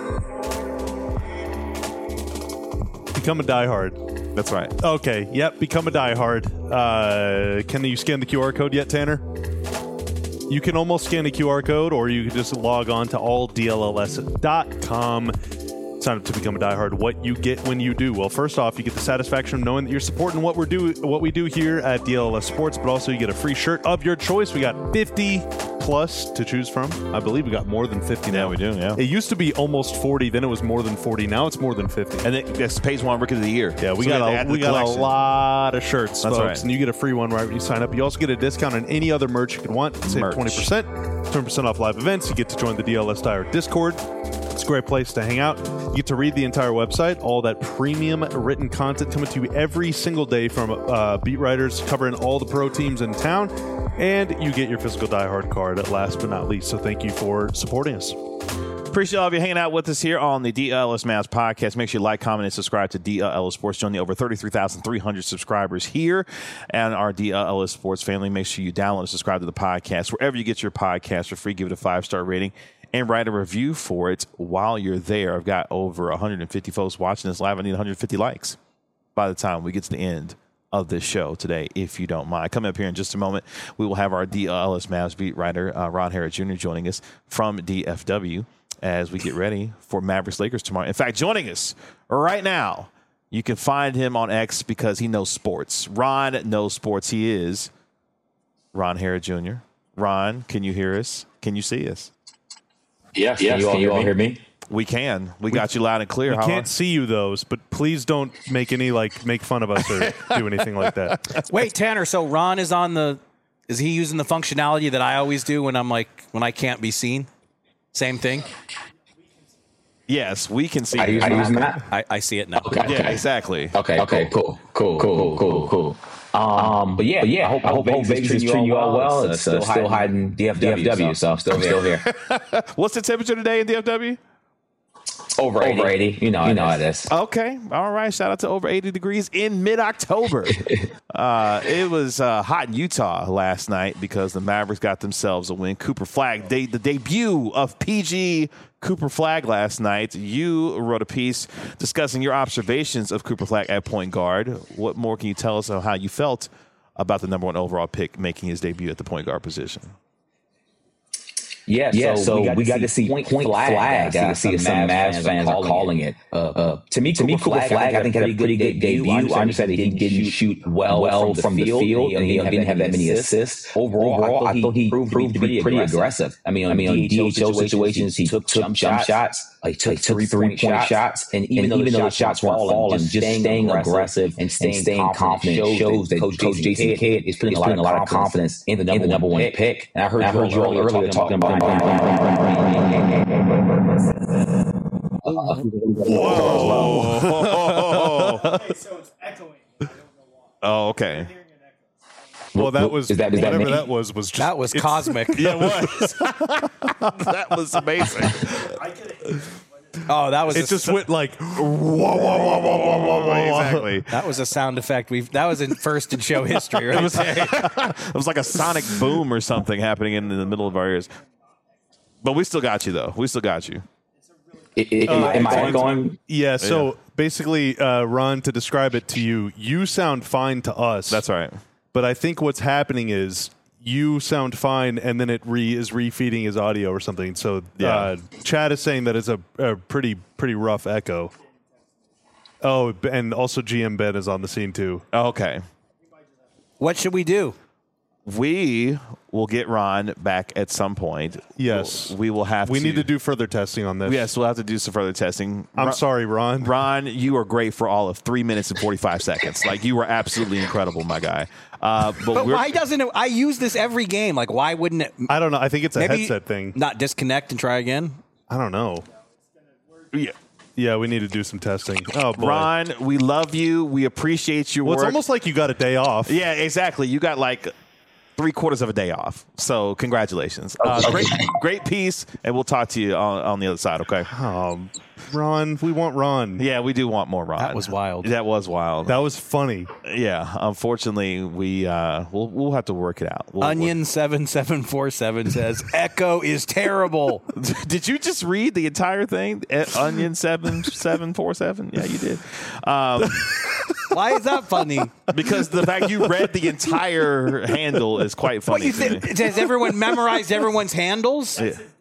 Become a diehard. That's right. Okay. Yep. Become a diehard. Uh, can you scan the Q R code yet, Tanner? You can almost scan the Q R code, or you can just log on to all D L L S dot com. Sign up to become a diehard. What you get when you do? Well, first off, you get the satisfaction of knowing that you're supporting what we're do what we do here at D L L S Sports, but also you get a free shirt of your choice. We got fifty plus to choose from. I believe we got more than fifty now. Yeah, we do, yeah. It used to be almost forty, then it was more than forty. Now it's more than fifty. And it, that's Page One Rookie of the Year. Yeah, we So got they a, add to we the got a collection. lot of shirts, That's folks, right. and you get a free one right when you sign up. You also get a discount on any other merch you could want. Save Merch. twenty percent, twenty percent off live events. You get to join the D L S Diehard Discord. It's a great place to hang out. You get to read the entire website, all that premium written content coming to you every single day from uh, beat writers covering all the pro teams in town. And you get your physical diehard card at last but not least. So thank you for supporting us. Appreciate all of you hanging out with us here on the D L L S Mavs podcast. Make sure you like, comment, and subscribe to D L L S Sports. Join the over thirty-three thousand three hundred subscribers here and our D L L S Sports family. Make sure you download and subscribe to the podcast wherever you get your podcast for free. Give it a five-star rating and write a review for it while you're there. I've got over one hundred fifty folks watching this live. I need one hundred fifty likes by the time we get to the end of this show today, if you don't mind. Coming up here in just a moment, we will have our D L L S Mavs beat writer, uh, Ron Hara Junior, joining us from D F W as we get ready for Mavericks Lakers tomorrow. In fact, joining us right now, you can find him on X because he knows sports. Ron knows sports. He is Ron Hara Junior Ron, can you hear us? Can you see us? Yes, yes. Can you all, can you all hear me? We can. We, we got you loud and clear. We How can't see you those, but please don't make any like make fun of us or do anything like that. Wait, Tanner. So Ron is on the. Is he using the functionality that I always do when I'm like when I can't be seen? Same thing. Yes, we can see. Are you you. using that? I, I see it now. Okay. Yeah, okay. exactly. Okay. Okay. Cool. Cool. Cool. Cool. Cool. Um, but yeah, but yeah. I hope, I hope, I hope Vegas is treating you all well. It's uh, still hiding D F W, D F W, so I'm still, still here. What's the temperature today in D F W? Over eighty. Over eighty. You know, you know how it is. Okay. All right. Shout out to over eighty degrees in mid-October. uh, it was uh, hot in Utah last night because the Mavericks got themselves a win. Cooper Flagg, they, the debut of P G Cooper Flagg last night. You wrote a piece discussing your observations of Cooper Flagg at point guard. What more can you tell us of how you felt about the number one overall pick making his debut at the point guard position? Yeah, yeah, so, so we got, we got to see point, point flag. flag. I see some Mavs fans are calling it. Uh, uh, to me, to me, Cooper Flag, Flag, I think had a pretty good debut. I understand that he didn't shoot well, well from the field, and he didn't have that many assists. Overall, Overall I thought he proved to be pretty aggressive. I mean, I mean, on D H O situations, he took jump shots. He took three-point shots, and even though the shots weren't falling, just staying aggressive and staying confident shows that Coach Jason Kidd is putting a lot of confidence in the number one pick. And I heard you all earlier talking about. Whoa. Okay, so it's echoing. I don't know why. Oh, okay. Well, that was Is that- is that whatever me? that was was just That was it's- cosmic. Yeah, it was. That was amazing. Oh, that was It a, just went like whoa, whoa, whoa, whoa, whoa, whoa, whoa. Exactly. that was a sound effect. We've that was in first in show history, right? there. It was like a sonic boom or something happening in, in the middle of our ears. But we still got you, though. We still got you. I- I- am, I, am I going? Yeah, so basically, uh, Ron, to describe it to you, you sound fine to us. That's right. But I think what's happening is you sound fine, and then it re is refeeding his audio or something. So Yeah. uh, Chad is saying that it's a, a pretty pretty rough echo. Oh, and also G M Ben is on the scene too. Okay. What should we do? We will get Ron back at some point. Yes. We'll- we will have We to. need to do further testing on this. Yes, we'll have to do some further testing. I'm Ron- sorry, Ron. Ron, you are great for all of three minutes and forty-five seconds. Like, you were absolutely incredible, my guy. Uh, but But we're, why doesn't it? I use this every game. Like, why wouldn't it? I don't know. I think it's a Maybe headset thing. Not disconnect and try again. I don't know. yeah. Yeah, we need to do some testing. Oh boy, Ron, we love you. We appreciate your Well, it's work. almost like you got a day off. Yeah, exactly. You got like three quarters of a day off. So congratulations. Uh, great, great piece, and we'll talk to you on, on the other side. Okay. Um, Ron, we want Ron. Yeah, we do want more Ron. That was wild. That was wild. That was funny. yeah. Unfortunately, we uh, we'll we'll have to work it out. We'll, Onion seven seven four seven says Echo is terrible. we'll- did you just read the entire thing? Eh, Onion seven seven four seven. Yeah, you did. Um, Why is that funny? because the fact you read the entire handle is quite What funny you to me. think? Has everyone memorized everyone's handles?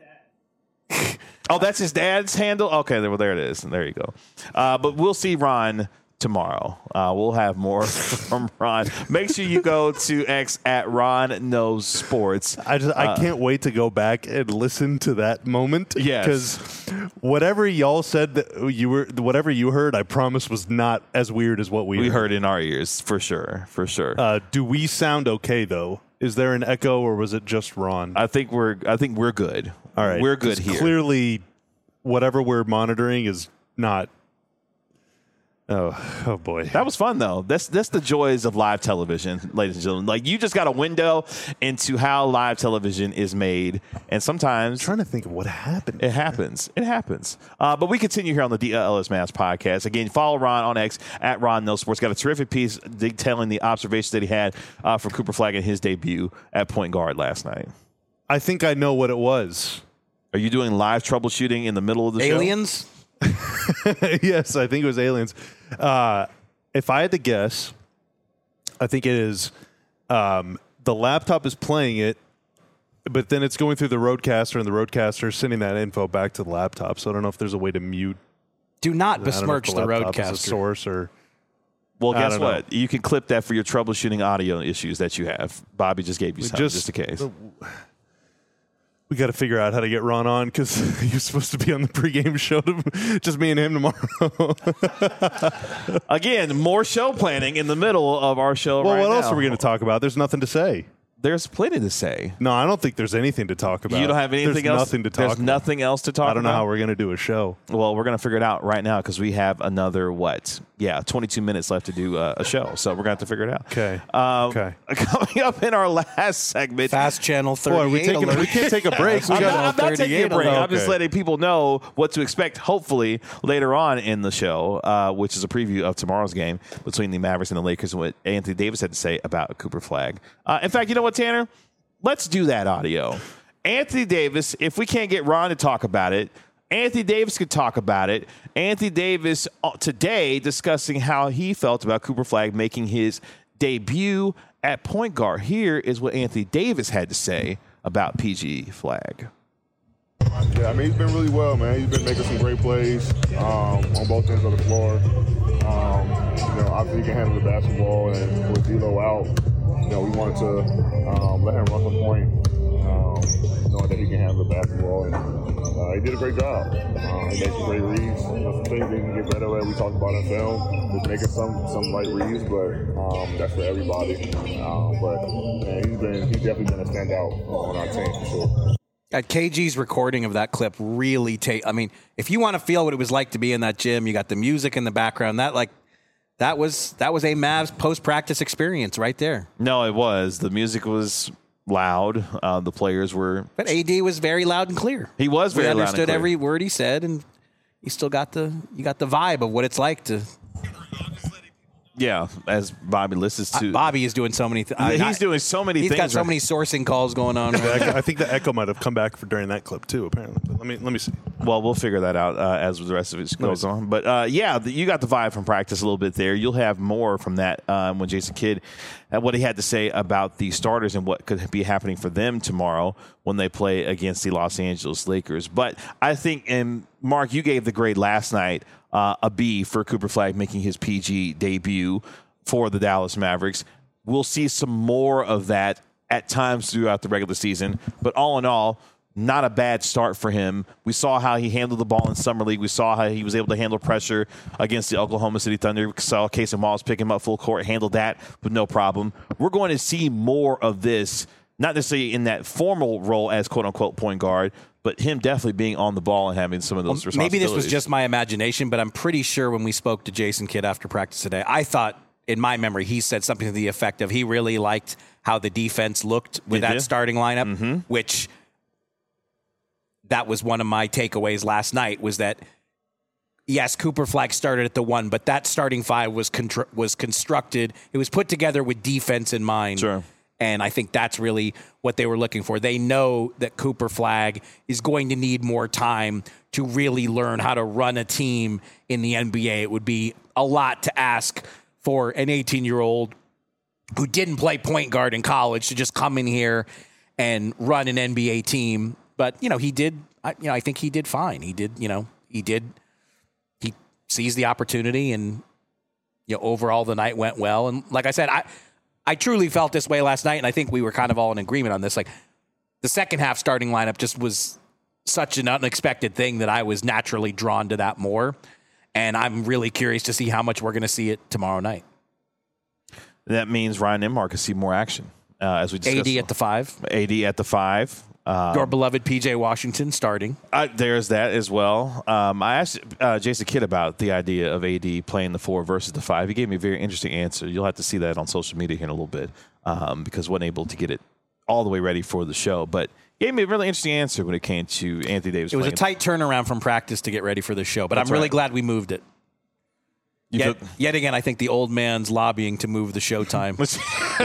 Oh, that's his dad's handle? Okay, well, there it is. There you go. Uh, but we'll see Ron tomorrow. Uh, we'll have more from Ron. Make sure you go to X at Ron Knows Sports. I just I can't wait to go back and listen to that moment. Yes. because whatever y'all said that you were, whatever you heard, I promise was not as weird as what we, We heard in our ears, for sure, for sure. Uh, do we sound okay though? Is there an echo or was it just Ron? I think we're I think we're good. All right, we're good 'Cause here. Clearly, whatever we're monitoring is not. Oh, oh boy. That was fun, though. That's that's the joys of live television, ladies and gentlemen. Like, you just got a window into how live television is made, and sometimes I'm trying to think of what happened. it happens. It happens. Uh, but we continue here on the D L L S Mass podcast. Again, follow Ron on X at Ron No Sports. Got a terrific piece detailing the observations that he had uh, for Cooper Flagg in his debut at point guard last night. I think I know what it was. Are you doing live troubleshooting in the middle of the show? Aliens? Yes, I think it was aliens. Uh, if I had to guess, I think it is um, the laptop is playing it, but then it's going through the roadcaster, and the roadcaster is sending that info back to the laptop. So I don't know if there's a way to mute. Do not I don't know if besmirch the, laptop is a roadcaster. source or. Well, I guess don't know. what? You can clip that for your troubleshooting audio ishes that you have. Bobby just gave you some, just, just- in case. We got to figure out how to get Ron on because he was supposed to be on the pregame show. To, just me and him tomorrow. Again, more show planning in the middle of our show Well, right what now. else are we going to talk about? There's nothing to say. There's plenty to say. No, I don't think there's anything to talk about. You don't have anything there's else? Nothing to talk. There's about. nothing else to talk about? I don't know how we're going to do a show. Well, we're going to figure it out right now because we have another, what? Yeah, twenty-two minutes left to do uh, a show. So we're going to have to figure it out. Okay. Um, Okay. Coming up in our last segment. Fast Channel thirty-eight Boy, we taking, alert. we can't take a break. We I'm got not, I'm not taking a break. alert. I'm just Okay. letting people know what to expect, hopefully, later on in the show, uh, which is a preview of tomorrow's game between the Mavericks and the Lakers and what Anthony Davis had to say about Cooper Flagg. Uh, in fact, you know what, Tanner? Let's do that audio. Anthony Davis, if we can't get Ron to talk about it, Anthony Davis could talk about it. Anthony Davis uh, today discussing how he felt about Cooper Flagg making his debut at point guard. Here is what Anthony Davis had to say about P G Flagg. Yeah, I mean, he's been really well, man. He's been making some great plays um, on both ends of the floor. Um, you know, obviously he can handle the basketball, and with D'Lo out, you know, we wanted to um, let him run the point, um, knowing that he can handle the basketball, and uh, he did a great job. Uh, he made some great reads. There's some things he can get better at. We talked about in film, just making some some right reads, but um, that's for everybody. Um, but man, he's been he's definitely been a standout on our team for sure. At K G's recording of that clip really take. I mean, if you want to feel what it was like to be in that gym, you got the music in the background. That like that was that was a Mavs post-practice experience right there. No, it was. The music was loud. Uh, the players were. But A D was very loud and clear. He was very we loud and understood clear. every word he said, and you still got the you got the vibe of what it's like to. Yeah, as Bobby listens to. Uh, Bobby is doing so many things. He's doing so many he's things. He's got so right? many sourcing calls going on. I, I think the echo might have come back for during that clip too. Apparently, but let me let me see. Well, we'll figure that out uh, as the rest of it goes on. But uh, yeah, the, you got the vibe from practice a little bit there. You'll have more from that um, when Jason Kidd, uh, what he had to say about the starters and what could be happening for them tomorrow when they play against the Los Angeles Lakers. But I think, and Mark, you gave the grade last night uh, a B for Cooper Flagg making his P G debut for the Dallas Mavericks. We'll see some more of that at times throughout the regular season. But all in all, not a bad start for him. We saw how he handled the ball in Summer League. We saw how he was able to handle pressure against the Oklahoma City Thunder. We saw Casey Moss pick him up full court, handled that with no problem. We're going to see more of this, not necessarily in that formal role as quote-unquote point guard, but him definitely being on the ball and having some of those well, responsibilities. Maybe this was just my imagination, but I'm pretty sure when we spoke to Jason Kidd after practice today, I thought, in my memory, he said something to the effect of he really liked how the defense looked with Did that you? starting lineup, Mm-hmm. which that was one of my takeaways last night was that, yes, Cooper Flagg started at the one, but that starting five was contr- was constructed. It was put together with defense in mind. Sure. And I think that's really what they were looking for. They know that Cooper Flagg is going to need more time to really learn how to run a team in the N B A. It would be a lot to ask for an eighteen-year-old who didn't play point guard in college to just come in here and run an N B A team. But, you know, he did, I, you know, I think he did fine. He did, you know, he did, he seized the opportunity and, you know, overall the night went well. And like I said, I, I truly felt this way last night, and I think we were kind of all in agreement on this. Like, the second half starting lineup just was such an unexpected thing that I was naturally drawn to that more. And I'm really curious to see how much we're going to see it tomorrow night. That means Ryan Nembhard could see more action, uh, as we discussed. A D at the five. A D at the five. Um, Your beloved P J Washington starting. Uh, there's that as well. Um, I asked uh, Jason Kidd about the idea of A D playing the four versus the five. He gave me a very interesting answer. You'll have to see that on social media here in a little bit um, because wasn't able to get it all the way ready for the show. But he gave me a really interesting answer when it came to Anthony Davis. It was a playing. tight turnadown from practice to get ready for the show, but That's I'm really right. glad we moved it. You Yet, feel- yet again, I think the old man's lobbying to move the show time was.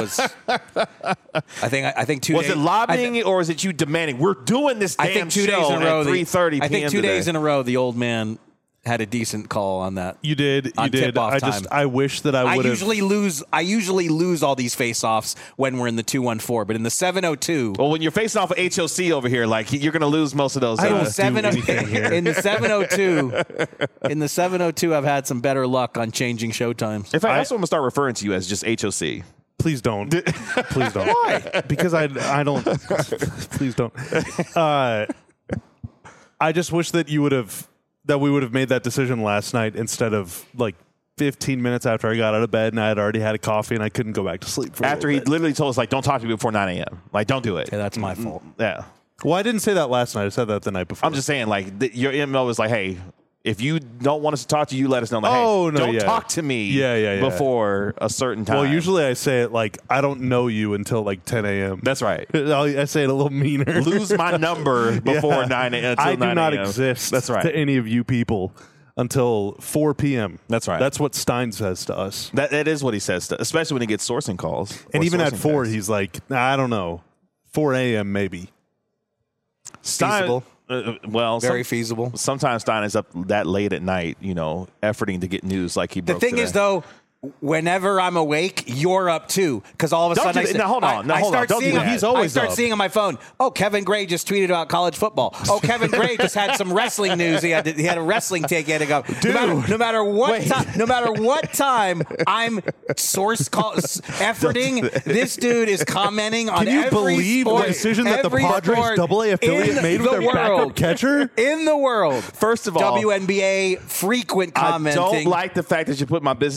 I think. I think two. was days, it lobbying I, th- or is it you demanding we're doing this damn I think two show days in a row. at the- three thirty p.m. I think two today? days in a row, the old man had a decent call on that. You did. You On did. tip-off I just. time. I wish that I I would have. usually lose. I usually lose all these face-offs when we're in the two one four, but in the seven oh two. Well, when you're facing off of H O C over here, like you're going to lose most of those. I don't uh, do seven oh anything here. in the seven oh two, in the seven oh two, I've had some better luck on changing show times. in fact, I- that's what I'm going to start referring to you as just H O C. Please don't. Please don't. Why? Because I I don't. Please don't. Uh, I just wish that you would have that we would have made that decision last night instead of like fifteen minutes after I got out of bed and I had already had a coffee and I couldn't go back to sleep. For a After he little bit. literally told us, like, don't talk to me before nine a.m. Like, don't do it. Yeah, that's my fault. Yeah. Well, I didn't say that last night. I said that the night before. I'm just saying, like, th- your M O was like, hey, if you don't want us to talk to you, let us know. Like, Oh, hey, no, don't yeah. talk to me Yeah, yeah, yeah. before a certain time. Well, usually I say it like I don't know you until like ten a.m. That's right. I say it a little meaner. Lose my number before Yeah. nine a.m. until I do nine not a.m. exist That's right. to any of you people until four p.m. That's right. That's what Stein says to us. That, that is what he says, to, especially when he gets sourcing calls. or And even at sourcing four, texts. he's like, nah, I don't know. four a.m. maybe. Stein- feasible. Uh, well, Very some- feasible. Sometimes Stein is up that late at night, you know, efforting to get news like he The broke thing today. is, though, whenever I'm awake, you're up too. Because all of a Don't sudden, do I, that. Now, hold on. I, Now, I hold on. start Don't do seeing. that. He's always I start up. seeing on my phone. Oh, Kevin Gray just tweeted about college football. Oh, Kevin Gray just had some wrestling news. He had to, he had a wrestling take. He had to go. Dude. No matter, no matter what, Wait. ti- no matter what time I'm source call efforting, this dude is commenting on Can you every believe sport, the decision that the every Padres sport double A affiliate in made with the their backup world. catcher? In the world. First of all, W N B A frequent I commenting. don't like the fact that you put my business on Front Street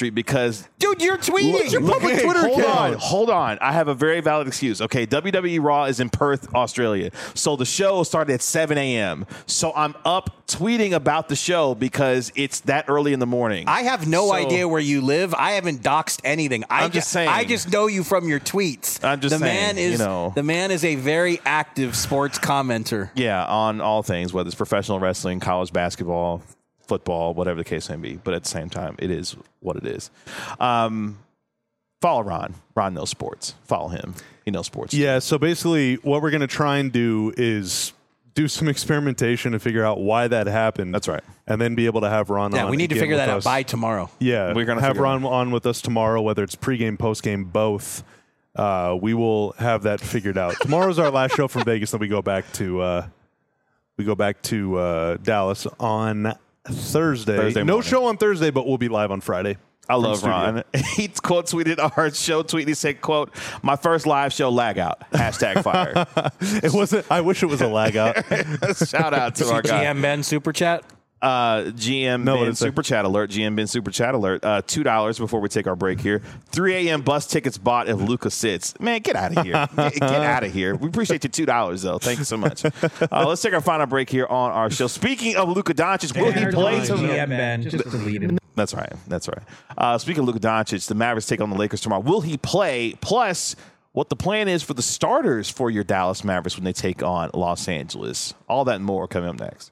Street because Dude, you're tweeting. Look, Your look, public hey, Twitter hold account. on, hold on. I have a very valid excuse. Okay, W W E Raw is in Perth, Australia. So the show started at seven a.m. So I'm up tweeting about the show because it's that early in the morning. I have no So- idea where you live. I haven't doxed anything. I I'm just saying. I just know you from your tweets. I'm just the saying, man is you know. the man is a very active sports commenter. Yeah, on all things, whether it's professional wrestling, college basketball, football, whatever the case may be. But at the same time, it is what it is. Um, follow Ron. Ron knows sports. Follow him. He knows sports. Yeah, so basically what we're going to try and do is do some experimentation to figure out why that happened. That's right. And then be able to have Ron Yeah, on we need to again figure with that out us. by tomorrow. Yeah, We're gonna have figure it Ron on with us tomorrow, whether it's pregame, postgame, both. Uh, we will have that figured out. Tomorrow's our last show from Vegas, then we go back to uh, we go back to uh, Dallas on Thursday. Thursday no morning. show on Thursday, but we'll be live on Friday. I from love studio. Ron. He quote tweeted our show tweet. He said, "quote My first live show lag out." Hashtag fire. It wasn't. I wish it was a lag out. Shout out to our G guy. M Ben super chat. Uh, G M No, what Ben did it say? Super Chat Alert. G M Ben Super Chat Alert. Uh, two dollars before we take our break here. three a.m. bus tickets bought if Luca sits. Man, get out of here. Get, get out of here. We appreciate your two dollars, though. Thank you so much. Uh, let's take our final break here on our show. Speaking of Luka Doncic, will he play G tonight? M Ben, just delete it. That's right. That's right. Uh, speaking of Luka Doncic, the Mavericks take on the Lakers tomorrow. Will he play? Plus, what the plan is for the starters for your Dallas Mavericks when they take on Los Angeles. All that and more coming up next.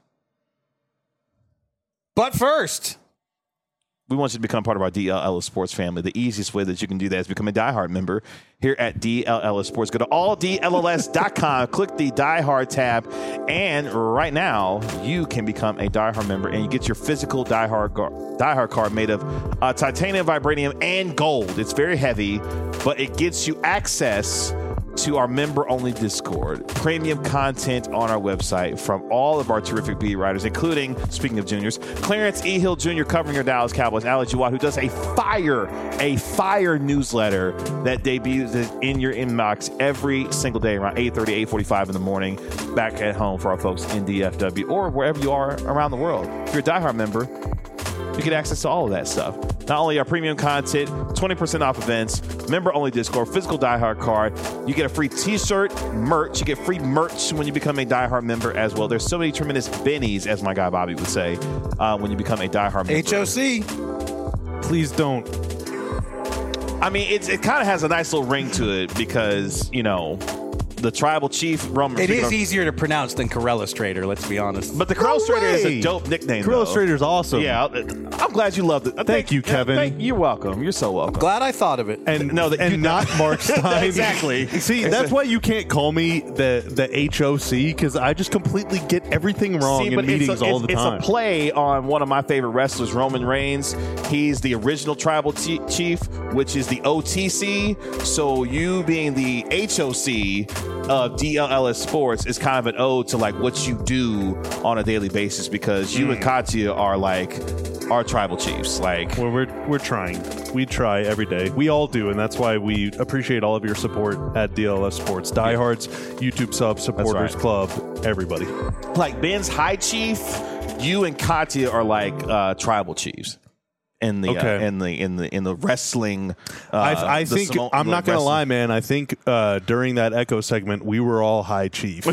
But first, We want you to become part of our D L Ellis Sports family. The easiest way that you can do that is become a diehard member here at D L Ellis Sports. Go to all D L L S dot com, click the diehard tab, and right now you can become a diehard member and you get your physical diehard, gar- diehard card made of uh, titanium, vibranium, and gold. It's very heavy, but it gets you access to our member-only Discord, premium content on our website from all of our terrific beat writers, including, speaking of juniors, Clarence E. Hill Junior covering your Dallas Cowboys, Alex Uwat, who does a fire, a fire newsletter that debuts in your inbox every single day around eight thirty, eight forty-five in the morning, back at home for our folks in D F W or wherever you are around the world. If you're a diehard member, you get access to all of that stuff. Not only our premium content, twenty percent off events, member-only Discord, physical diehard card. You get a free T-shirt, merch. You get free merch when you become a diehard member as well. There's so many tremendous bennies, as my guy Bobby would say, uh, when you become a diehard member. H O C. Please don't. I mean, it's, it kind of has a nice little ring to it because, you know, the tribal chief, Roman. It is easier to pronounce than Corella Strader, let's be honest. But the Corella No Strader is way. a dope nickname. Corella though. Strader's awesome. Yeah, I'm glad you loved it. Uh, Thank you, Kevin. thank- you're welcome. You're so welcome. Glad I thought of it. And No, that and you- not Mark Stein. Exactly. See, that's why you can't call me the the H O C because I just completely get everything wrong See, in but meetings it's a, all it's, the it's time. a play on one of my favorite wrestlers, Roman Reigns. He's the original tribal t- chief, which is the O T C. So you being the H O C of D L L S Sports is kind of an ode to like what you do on a daily basis because you Mm. and Katya are like our tribal chiefs. Like Well, we're we're trying. We try every day. We all do, and that's why we appreciate all of your support at D L L S Sports. Diehards, YouTube subs, supporters right. club, everybody. like Ben's high chief, you and Katya are like uh, tribal chiefs. In the, Okay. uh, in the in the in the wrestling, uh, I, I the think Samo- I'm the not gonna wrestling- lie, man. I think uh, during that Echo segment, we were all high chief.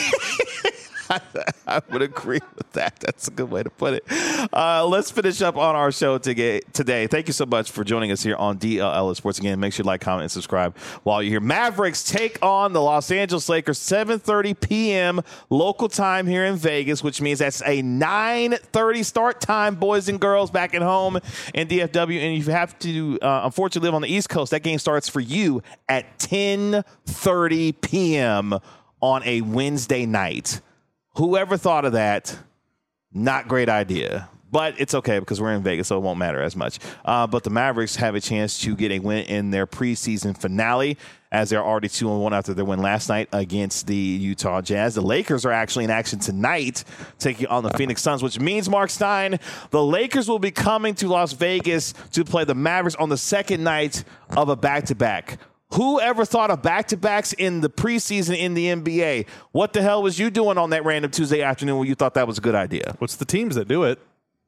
I would agree with that. That's a good way to put it. Uh, let's finish up on our show today. Today, thank you so much for joining us here on D L L Sports. Again, make sure you like, comment, and subscribe while you're here. Mavericks take on the Los Angeles Lakers, seven thirty p.m. local time here in Vegas, which means that's a nine thirty start time, boys and girls, back at home in D F W. And you have to, uh, unfortunately, live on the East Coast. That game starts for you at ten thirty p.m. on a Wednesday night. Whoever thought of that, not great idea. But it's okay because we're in Vegas, so it won't matter as much. Uh, but the Mavericks have a chance to get a win in their preseason finale as they're already two and one after their win last night against the Utah Jazz. The Lakers are actually in action tonight, taking on the Phoenix Suns, which means, Mark Stein, the Lakers will be coming to Las Vegas to play the Mavericks on the second night of a back-to-back. Who ever thought of back-to-backs in the preseason in the N B A? What the hell was you doing on that random Tuesday afternoon when you thought that was a good idea? What's the teams that do it?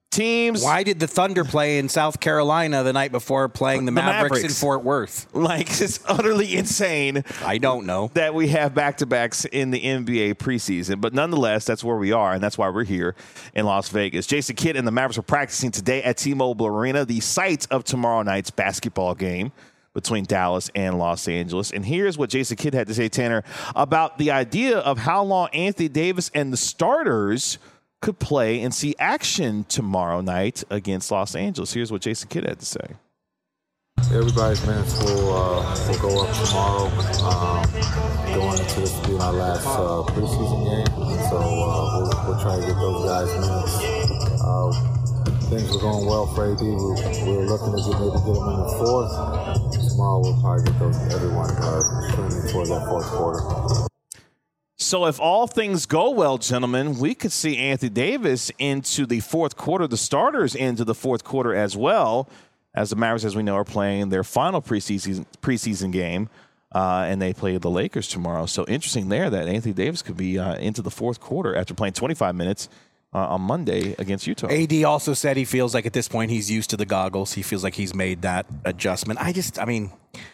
teams. Why did the Thunder play in South Carolina the night before playing the, The Mavericks, Mavericks. in Fort Worth? Like, it's utterly insane. I don't know. That we have back-to-backs in the N B A preseason. But nonetheless, that's where we are, and that's why we're here in Las Vegas. Jason Kidd and the Mavericks are practicing today at T-Mobile Arena, the site of tomorrow night's basketball game between Dallas and Los Angeles. And here's what Jason Kidd had to say, Tanner, about the idea of how long Anthony Davis and the starters could play and see action tomorrow night against Los Angeles. Here's what Jason Kidd had to say. Everybody's minutes will, uh, will go up tomorrow, um, going into this being our last uh, preseason game. And so uh, we'll, we'll try to get those guys minutes. Uh, things were going well for A D. We, we were looking to get, maybe get them in the fourth. Tomorrow we'll probably get those everyone uh, trending towards that fourth quarter. So if all things go well, gentlemen, we could see Anthony Davis into the fourth quarter, the starters into the fourth quarter as well, as the Mavericks, as we know, are playing their final preseason preseason game, uh, and they play the Lakers tomorrow. So interesting there that Anthony Davis could be uh, into the fourth quarter after playing twenty-five minutes uh, on Monday against Utah. A D also said he feels like at this point he's used to the goggles. He feels like he's made that adjustment. I just, I mean,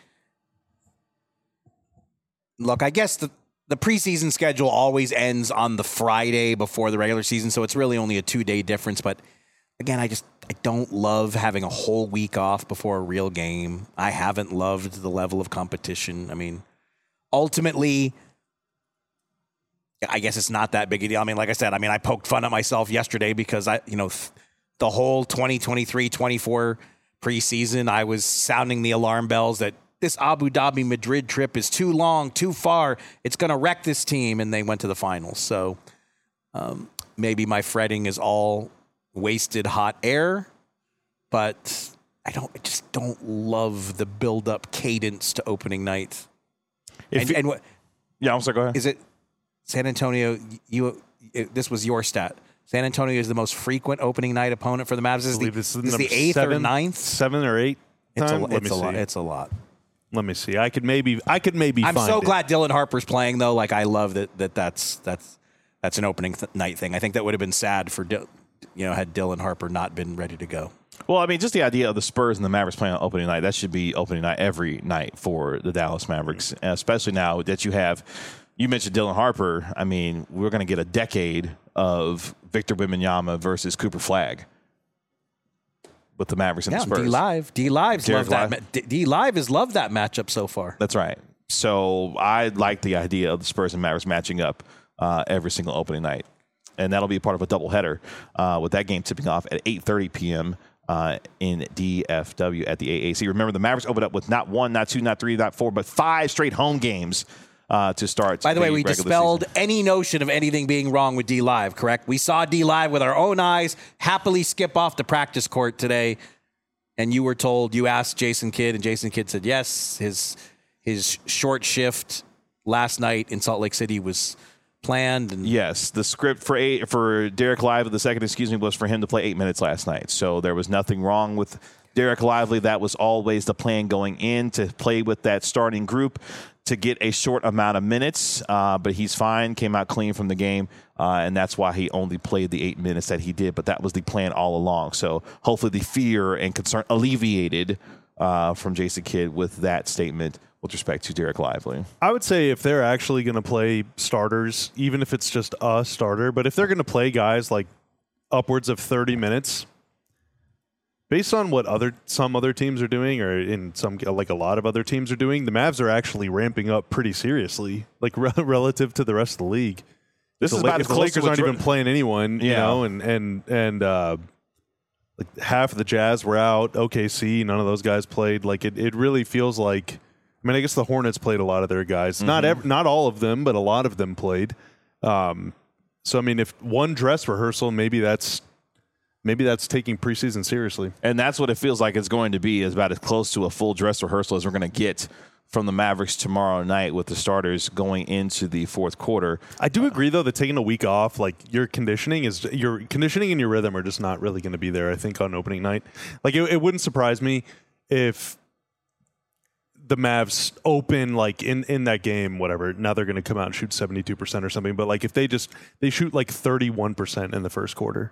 look, I guess the The preseason schedule always ends on the Friday before the regular season, so it's really only a two-day difference. But, again, I just I don't love having a whole week off before a real game. I haven't loved the level of competition. I mean, ultimately, I guess it's not that big a deal. I mean, like I said, I mean, I poked fun at myself yesterday because, I, you know, th- the whole twenty twenty-three twenty-four preseason, I was sounding the alarm bells that this Abu Dhabi Madrid trip is too long, too far. It's going to wreck this team, and they went to the finals. So um, maybe my fretting is all wasted hot air, but I don't. I just don't love the build-up cadence to opening night. If And, you- and what yeah, I'm sorry, go ahead. is it? San Antonio. You. It, this was your stat. San Antonio is the most frequent opening night opponent for the Mavs. This is I the, believe this is, this is number the eighth seven, or ninth. seven or eight. It's a, time? Let it's me a lot. see. It's a lot. Let me see. I could maybe. I could maybe. I'm find so it. glad Dylan Harper's playing, though. Like, I love that. That that's that's that's an opening th- night thing. I think that would have been sad for Dil- you know had Dylan Harper not been ready to go. Well, I mean, just the idea of the Spurs and the Mavericks playing on opening night, that should be opening night every night for the Dallas Mavericks, especially now that you have, you mentioned Dylan Harper. I mean, we're going to get a decade of Victor Wembanyama versus Cooper Flagg with the Mavericks and Yeah, the Spurs. D Live, D Live's Derek loved that. Live. Ma- D-, D Live has loved that matchup so far. That's right. So I like the idea of the Spurs and Mavericks matching up uh, every single opening night. And that'll be part of a doubleheader uh, with that game tipping off at eight thirty p.m. Uh, in D F W at the A A C. Remember, the Mavericks opened up with not one, not two, not three, not four, but five straight home games uh, to start. By the way, we regular dispelled season. any notion of anything being wrong with D Live, correct? We saw D Live with our own eyes happily skip off the practice court today. And you were told, you asked Jason Kidd, and Jason Kidd said yes. His his short shift last night in Salt Lake City was planned. And Yes, the script for eight, for Derek Lively, the second, excuse me, was for him to play eight minutes last night. So there was nothing wrong with Derek Lively. That was always the plan going in, to play with that starting group to get a short amount of minutes. Uh, but he's fine, came out clean from the game, uh, and that's why he only played the eight minutes that he did. But that was the plan all along. So hopefully the fear and concern alleviated uh, from Jason Kidd with that statement with respect to Derek Lively. I would say if they're actually going to play starters, even if it's just a starter, but if they're going to play guys like upwards of thirty minutes, based on what other some other teams are doing, or in some like a lot of other teams are doing, the Mavs are actually ramping up pretty seriously, like re- relative to the rest of the league. This If is the, about La- as if the close to Lakers what aren't Dr- even playing anyone, you Yeah. know, and and and uh, like half of the Jazz were out. O K C, none of those guys played. Like it, it really feels like. I mean, I guess the Hornets played a lot of their guys. Mm-hmm. Not ev- not all of them, but a lot of them played. Um, so I mean, if one dress rehearsal, maybe that's maybe that's taking preseason seriously. And that's what it feels like it's going to be, is about as close to a full dress rehearsal as we're going to get from the Mavericks tomorrow night, with the starters going into the fourth quarter. I do agree, though, that taking a week off, like your conditioning is your conditioning and your rhythm are just not really going to be there. I think on opening night, like it, it wouldn't surprise me if the Mavs open like in, in that game, whatever. Now they're going to come out and shoot seventy-two percent or something. But like if they just they shoot like thirty-one percent in the first quarter,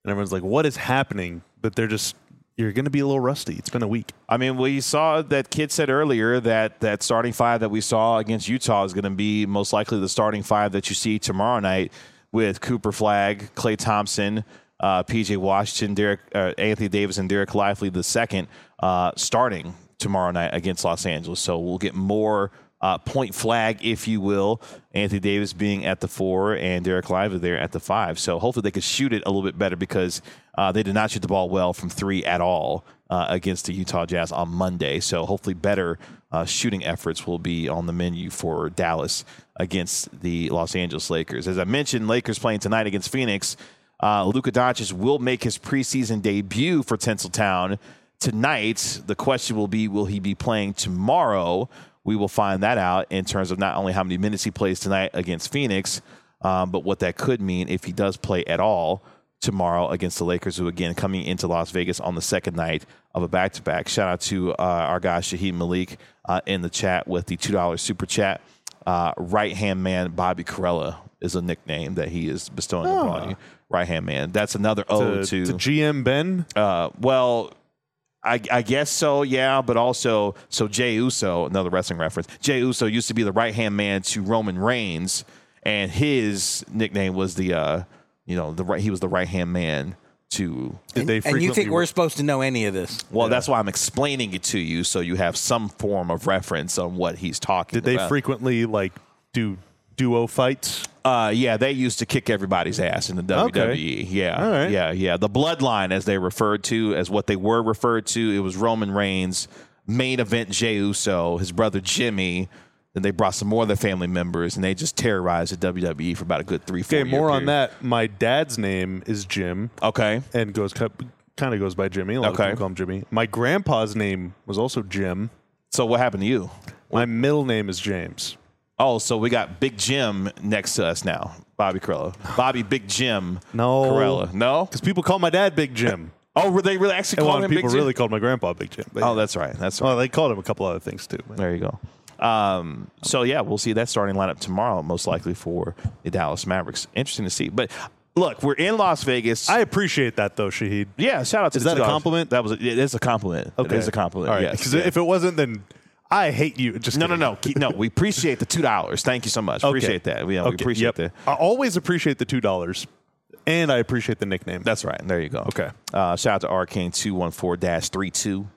and everyone's like, "What is happening?" But they're just you're going to be a little rusty. It's been a week. I mean, we saw that kid said earlier that that starting five that we saw against Utah is going to be most likely the starting five that you see tomorrow night with Cooper Flagg, Klay Thompson, uh, P J Washington, Derek, uh, Anthony Davis, and Derek Lively the second uh, starting tomorrow night against Los Angeles. So we'll get more uh, point flag, if you will. Anthony Davis being at the four and Derek Lively there at the five. So hopefully they could shoot it a little bit better because uh, they did not shoot the ball well from three at all uh, against the Utah Jazz on Monday. So hopefully better uh, shooting efforts will be on the menu for Dallas against the Los Angeles Lakers. As I mentioned, Lakers playing tonight against Phoenix. Uh, Luka Doncic will make his preseason debut for Tinseltown tonight. The question will be, will he be playing tomorrow? We will find that out in terms of not only how many minutes he plays tonight against Phoenix, um, but what that could mean if he does play at all tomorrow against the Lakers, who, again, coming into Las Vegas on the second night of a back-to-back. Shout out to uh, our guy, Shaheed Malik, uh, in the chat with the two dollars super chat. Uh, right-hand man Bobby Corella is a nickname that he is bestowing Oh. upon you. Right-hand man. That's another ode to, to G M Ben. Uh, well, I, I guess so, yeah, but also, so Jey Uso, another wrestling reference. Jey Uso used to be the right-hand man to Roman Reigns, and his nickname was the, uh, you know, the right. He was the right-hand man to. Did they And you frequently think we're supposed to know any of this? Well, that's why I'm explaining it to you, so you have some form of reference on what he's talking Did they about. frequently like do duo fights? Uh, yeah, they used to kick everybody's ass in the W W E. Okay. Yeah, All right. yeah, yeah. The Bloodline, as they referred to, as what they were referred to, it was Roman Reigns, main event Jey Uso, his brother Jimmy. Then they brought some more of their family members, and they just terrorized the W W E for about a good three, four Okay, year more on period. that. My dad's name is Jim. Okay. And goes kind of goes by Jimmy. A lot Okay. of people call him Jimmy. My grandpa's name was also Jim. So what happened to you? My middle name is James. Oh, so we got Big Jim next to us now, Bobby Corella. Bobby Big Jim No. Corella. No? Because people call my dad Big Jim. Oh, were they really actually And a calling lot him of people Big Jim? really called my grandpa Big Jim. But Oh, yeah. that's right. That's right. Well, they called him a couple other things too. There you go. Um, so, yeah, we'll see that starting lineup tomorrow, most likely for the Dallas Mavericks. Interesting to see. But, look, we're in Las Vegas. I appreciate that, though, Shahid. yeah, shout out to Is the that two a dollars. compliment? That was a, it is a compliment. Okay. It is a compliment, All right. yes. Because Yeah. if it wasn't, then I hate you. Just No, no, kidding. no. Keep- No, we appreciate the two dollars. Thank you so much. Okay. Appreciate that. We, yeah, we Okay, appreciate yep. that. I always appreciate the two dollars, and I appreciate the nickname. That's right. There you go. Okay. Uh, shout out to Arcane two one four dash three two.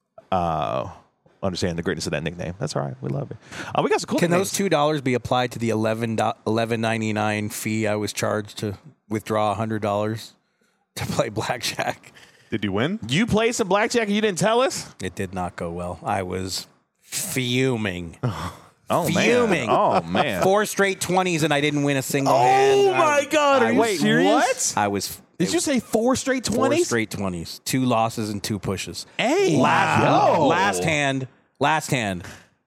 Uh, understand the greatness of that nickname. That's all right. We love it. Uh, we got some cool Can nicknames. those two dollars be applied to the eleven eleven ninety nine fee I was charged to withdraw a hundred dollars to play blackjack? Did you win? You played some blackjack and you didn't tell us? It did not go well. I was fuming. Oh, Fuming. man. Oh, man. Four straight twenties and I didn't win a single hand. Oh my I- God! Are I you was- Wait, what? I was. Did you say four straight four twenties? straight twenties? Two losses and two pushes. Hey, Last, wow. last hand. Last hand.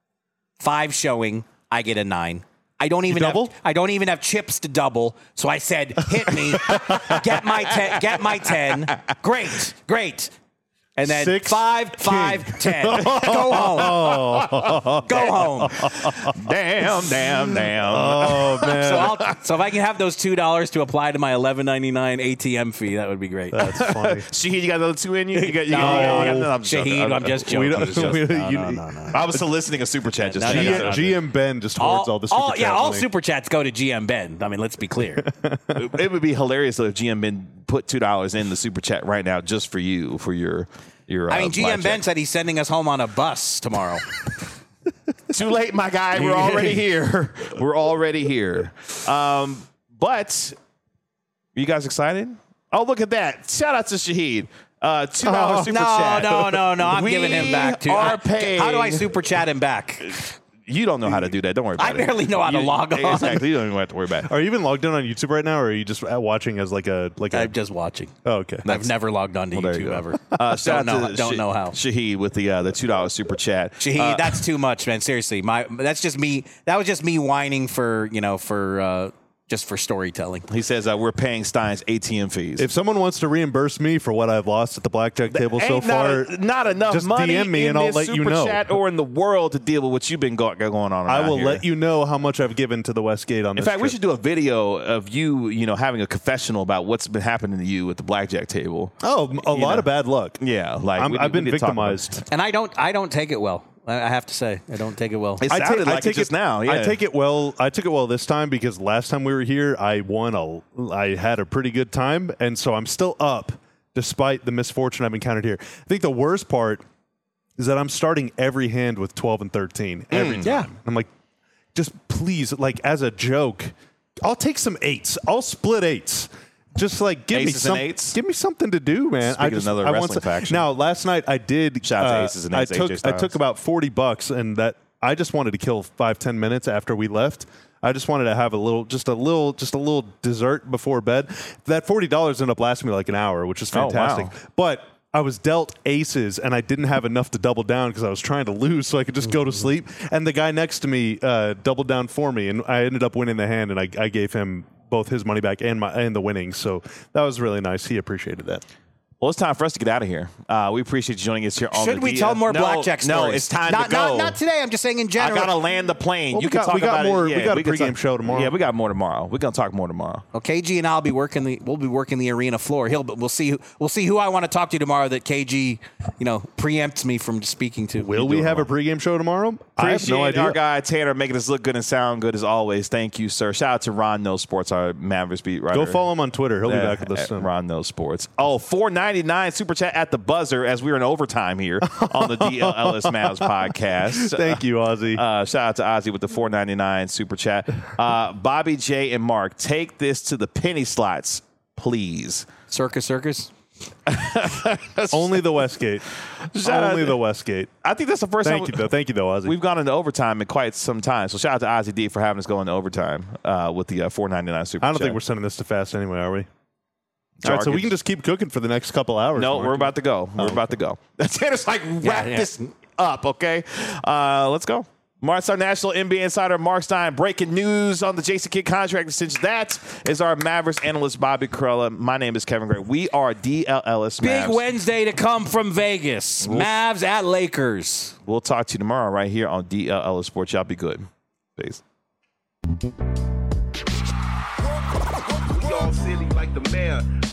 Five showing. I get a nine. I don't even have, doubled? I don't even have chips to double. So I said, "Hit me, get my ten, get my ten." Great, great. And then Six five, king. five, ten. Go home. Go home. Damn, damn, damn. Oh man, So, I'll, so if I can have those two dollars to apply to my eleven ninety nine A T M fee, that would be great. that's funny. Shahid, you got another two in you? You got, you No, got, you got, you got, I'm joking. Shahid, I'm just joking. We don't- I'm just joking. we- No, you- no, no, no. I was soliciting a super chat just No, to no, G- no, no. G M Ben just hoards all, the super all, yeah, chat all money. super chats go to G M Ben. I mean, let's be clear. It would be hilarious though if G M Ben put two dollars in the super chat right now just for you for your your. Uh, I mean, G M Ben blackjack. said he's sending us home on a bus tomorrow. Too late, my guy. We're already here. We're already here. Um, but are you guys excited? Oh, look at that! Shout out to Shahid. Uh, two dollars super no, chat. no, no, no. I'm We giving him back too. Are I- paying. How do I super chat him back? You don't know how to do that. Don't worry about I it. barely know how to You- log on. Exactly. You don't even have to worry about it. Are you even logged in on YouTube right now, or are you just uh, watching as like a like a? I'm just watching. oh, okay. I've never logged on to Well, there you YouTube go. ever. Uh, shout don't out know. to Don't Sh- know how. Shahid with the uh, the two dollars super chat. Shahid, Uh, that's too much, man. Seriously, my that's just me. That was just me whining for you know for uh, just for storytelling. He says uh, we're paying Stein's A T M fees. If someone wants to reimburse me for what I've lost at the blackjack table so Ain't far, not, a, not enough just money D M me in and I'll this let you super know. chat or in the world to deal with what you've been go- going on. I will here. let you know how much I've given to the Westgate on In this fact, we trip. should do a video of you, you know, having a confessional about what's been happening to you at the blackjack table. Oh, a You lot know. of bad luck. Yeah, like I'm, we I've need- we been need to talk about it. victimized. And I don't I don't take it well. I I have to say, I don't take it well. It I sounded take, like I take it just now. Yeah. I take it well. I took it well this time because last time we were here, I won a. I had a pretty good time, and so I'm still up despite the misfortune I've encountered here. I think the worst part is that I'm starting every hand with twelve and thirteen every time. yeah. I'm like, just please, like as a joke, I'll take some eights. I'll split eights. Just like give Aces me some, and eights? give me something to do, man. Speaking I of just another I want wrestling some- faction. Now, last night I did. Shout out to uh, Aces and I Eights, A J took I Styles. took about forty bucks, and that I just wanted to kill five ten minutes after we left. I just wanted to have a little, just a little, just a little dessert before bed. That forty dollars ended up lasting me like an hour, which is Oh, wow. fantastic. But I was dealt aces, and I didn't have enough to double down because I was trying to lose, so I could just go to sleep. And the guy next to me uh, doubled down for me, and I ended up winning the hand, and I, I gave him both his money back and my and the winnings. So that was really nice. He appreciated that. Well, it's time for us to get out of here. Uh, we appreciate you joining us here on Should the we D- tell more no, blackjack stories? No, it's time not, to go. Not, not today. I'm just saying in I general. gotta land the plane. Well, you we can got- talk we got about more- it. we got a can pregame talk- show tomorrow. Yeah, we got more tomorrow. We're gonna talk more tomorrow. Well, K G and I'll be working the. We'll be working the arena floor. He'll. But we'll see. Who, we'll see who I want to talk to tomorrow. That K G, you know, preempts me from speaking to. Will we have a pregame show tomorrow? I have Appreciate no idea. our guy Tanner making us look good and sound good as always. Thank you, sir. Shout out to Ron Knows Sports, our Mavericks beat writer. Go follow him on Twitter. He'll be Yeah, back with us at soon. Ron Knows Sports. Oh, four ninety-nine super chat at the buzzer as we were in overtime here on the D L L S Mavs podcast. Thank you, Ozzy. Uh, shout out to Ozzy with the four ninety-nine super chat. Uh, Bobby J and Mark, take this to the penny slots, please. Circus, circus. Only the Westgate. Shout Only out- the Westgate. I think that's the first Thank time you, though. Thank you, though, Ozzy. we've gone into overtime in quite some time. So shout out to Ozzy D for having us go into overtime uh, with the uh, four ninety-nine super I don't chat. think we're sending this to fast anyway, are we? No, All right, so we Arkansas- can just keep cooking for the next couple hours. No, Mark. we're about to go. We're Oh, about to go. Tanner's like, wrap Yeah, yeah. this up, okay? Uh, let's go. Mark's our national N B A insider, Mark Stein. Breaking news on the Jason Kidd contract extension. That is our Mavericks analyst, Bobby Corella. My name is Kevin Gray. We are D L L S Big Mavs. Wednesday to come from Vegas. Mavs at Lakers. We'll talk to you tomorrow right here on D L L S Sports. Y'all be good. Peace. We all silly like the mayor.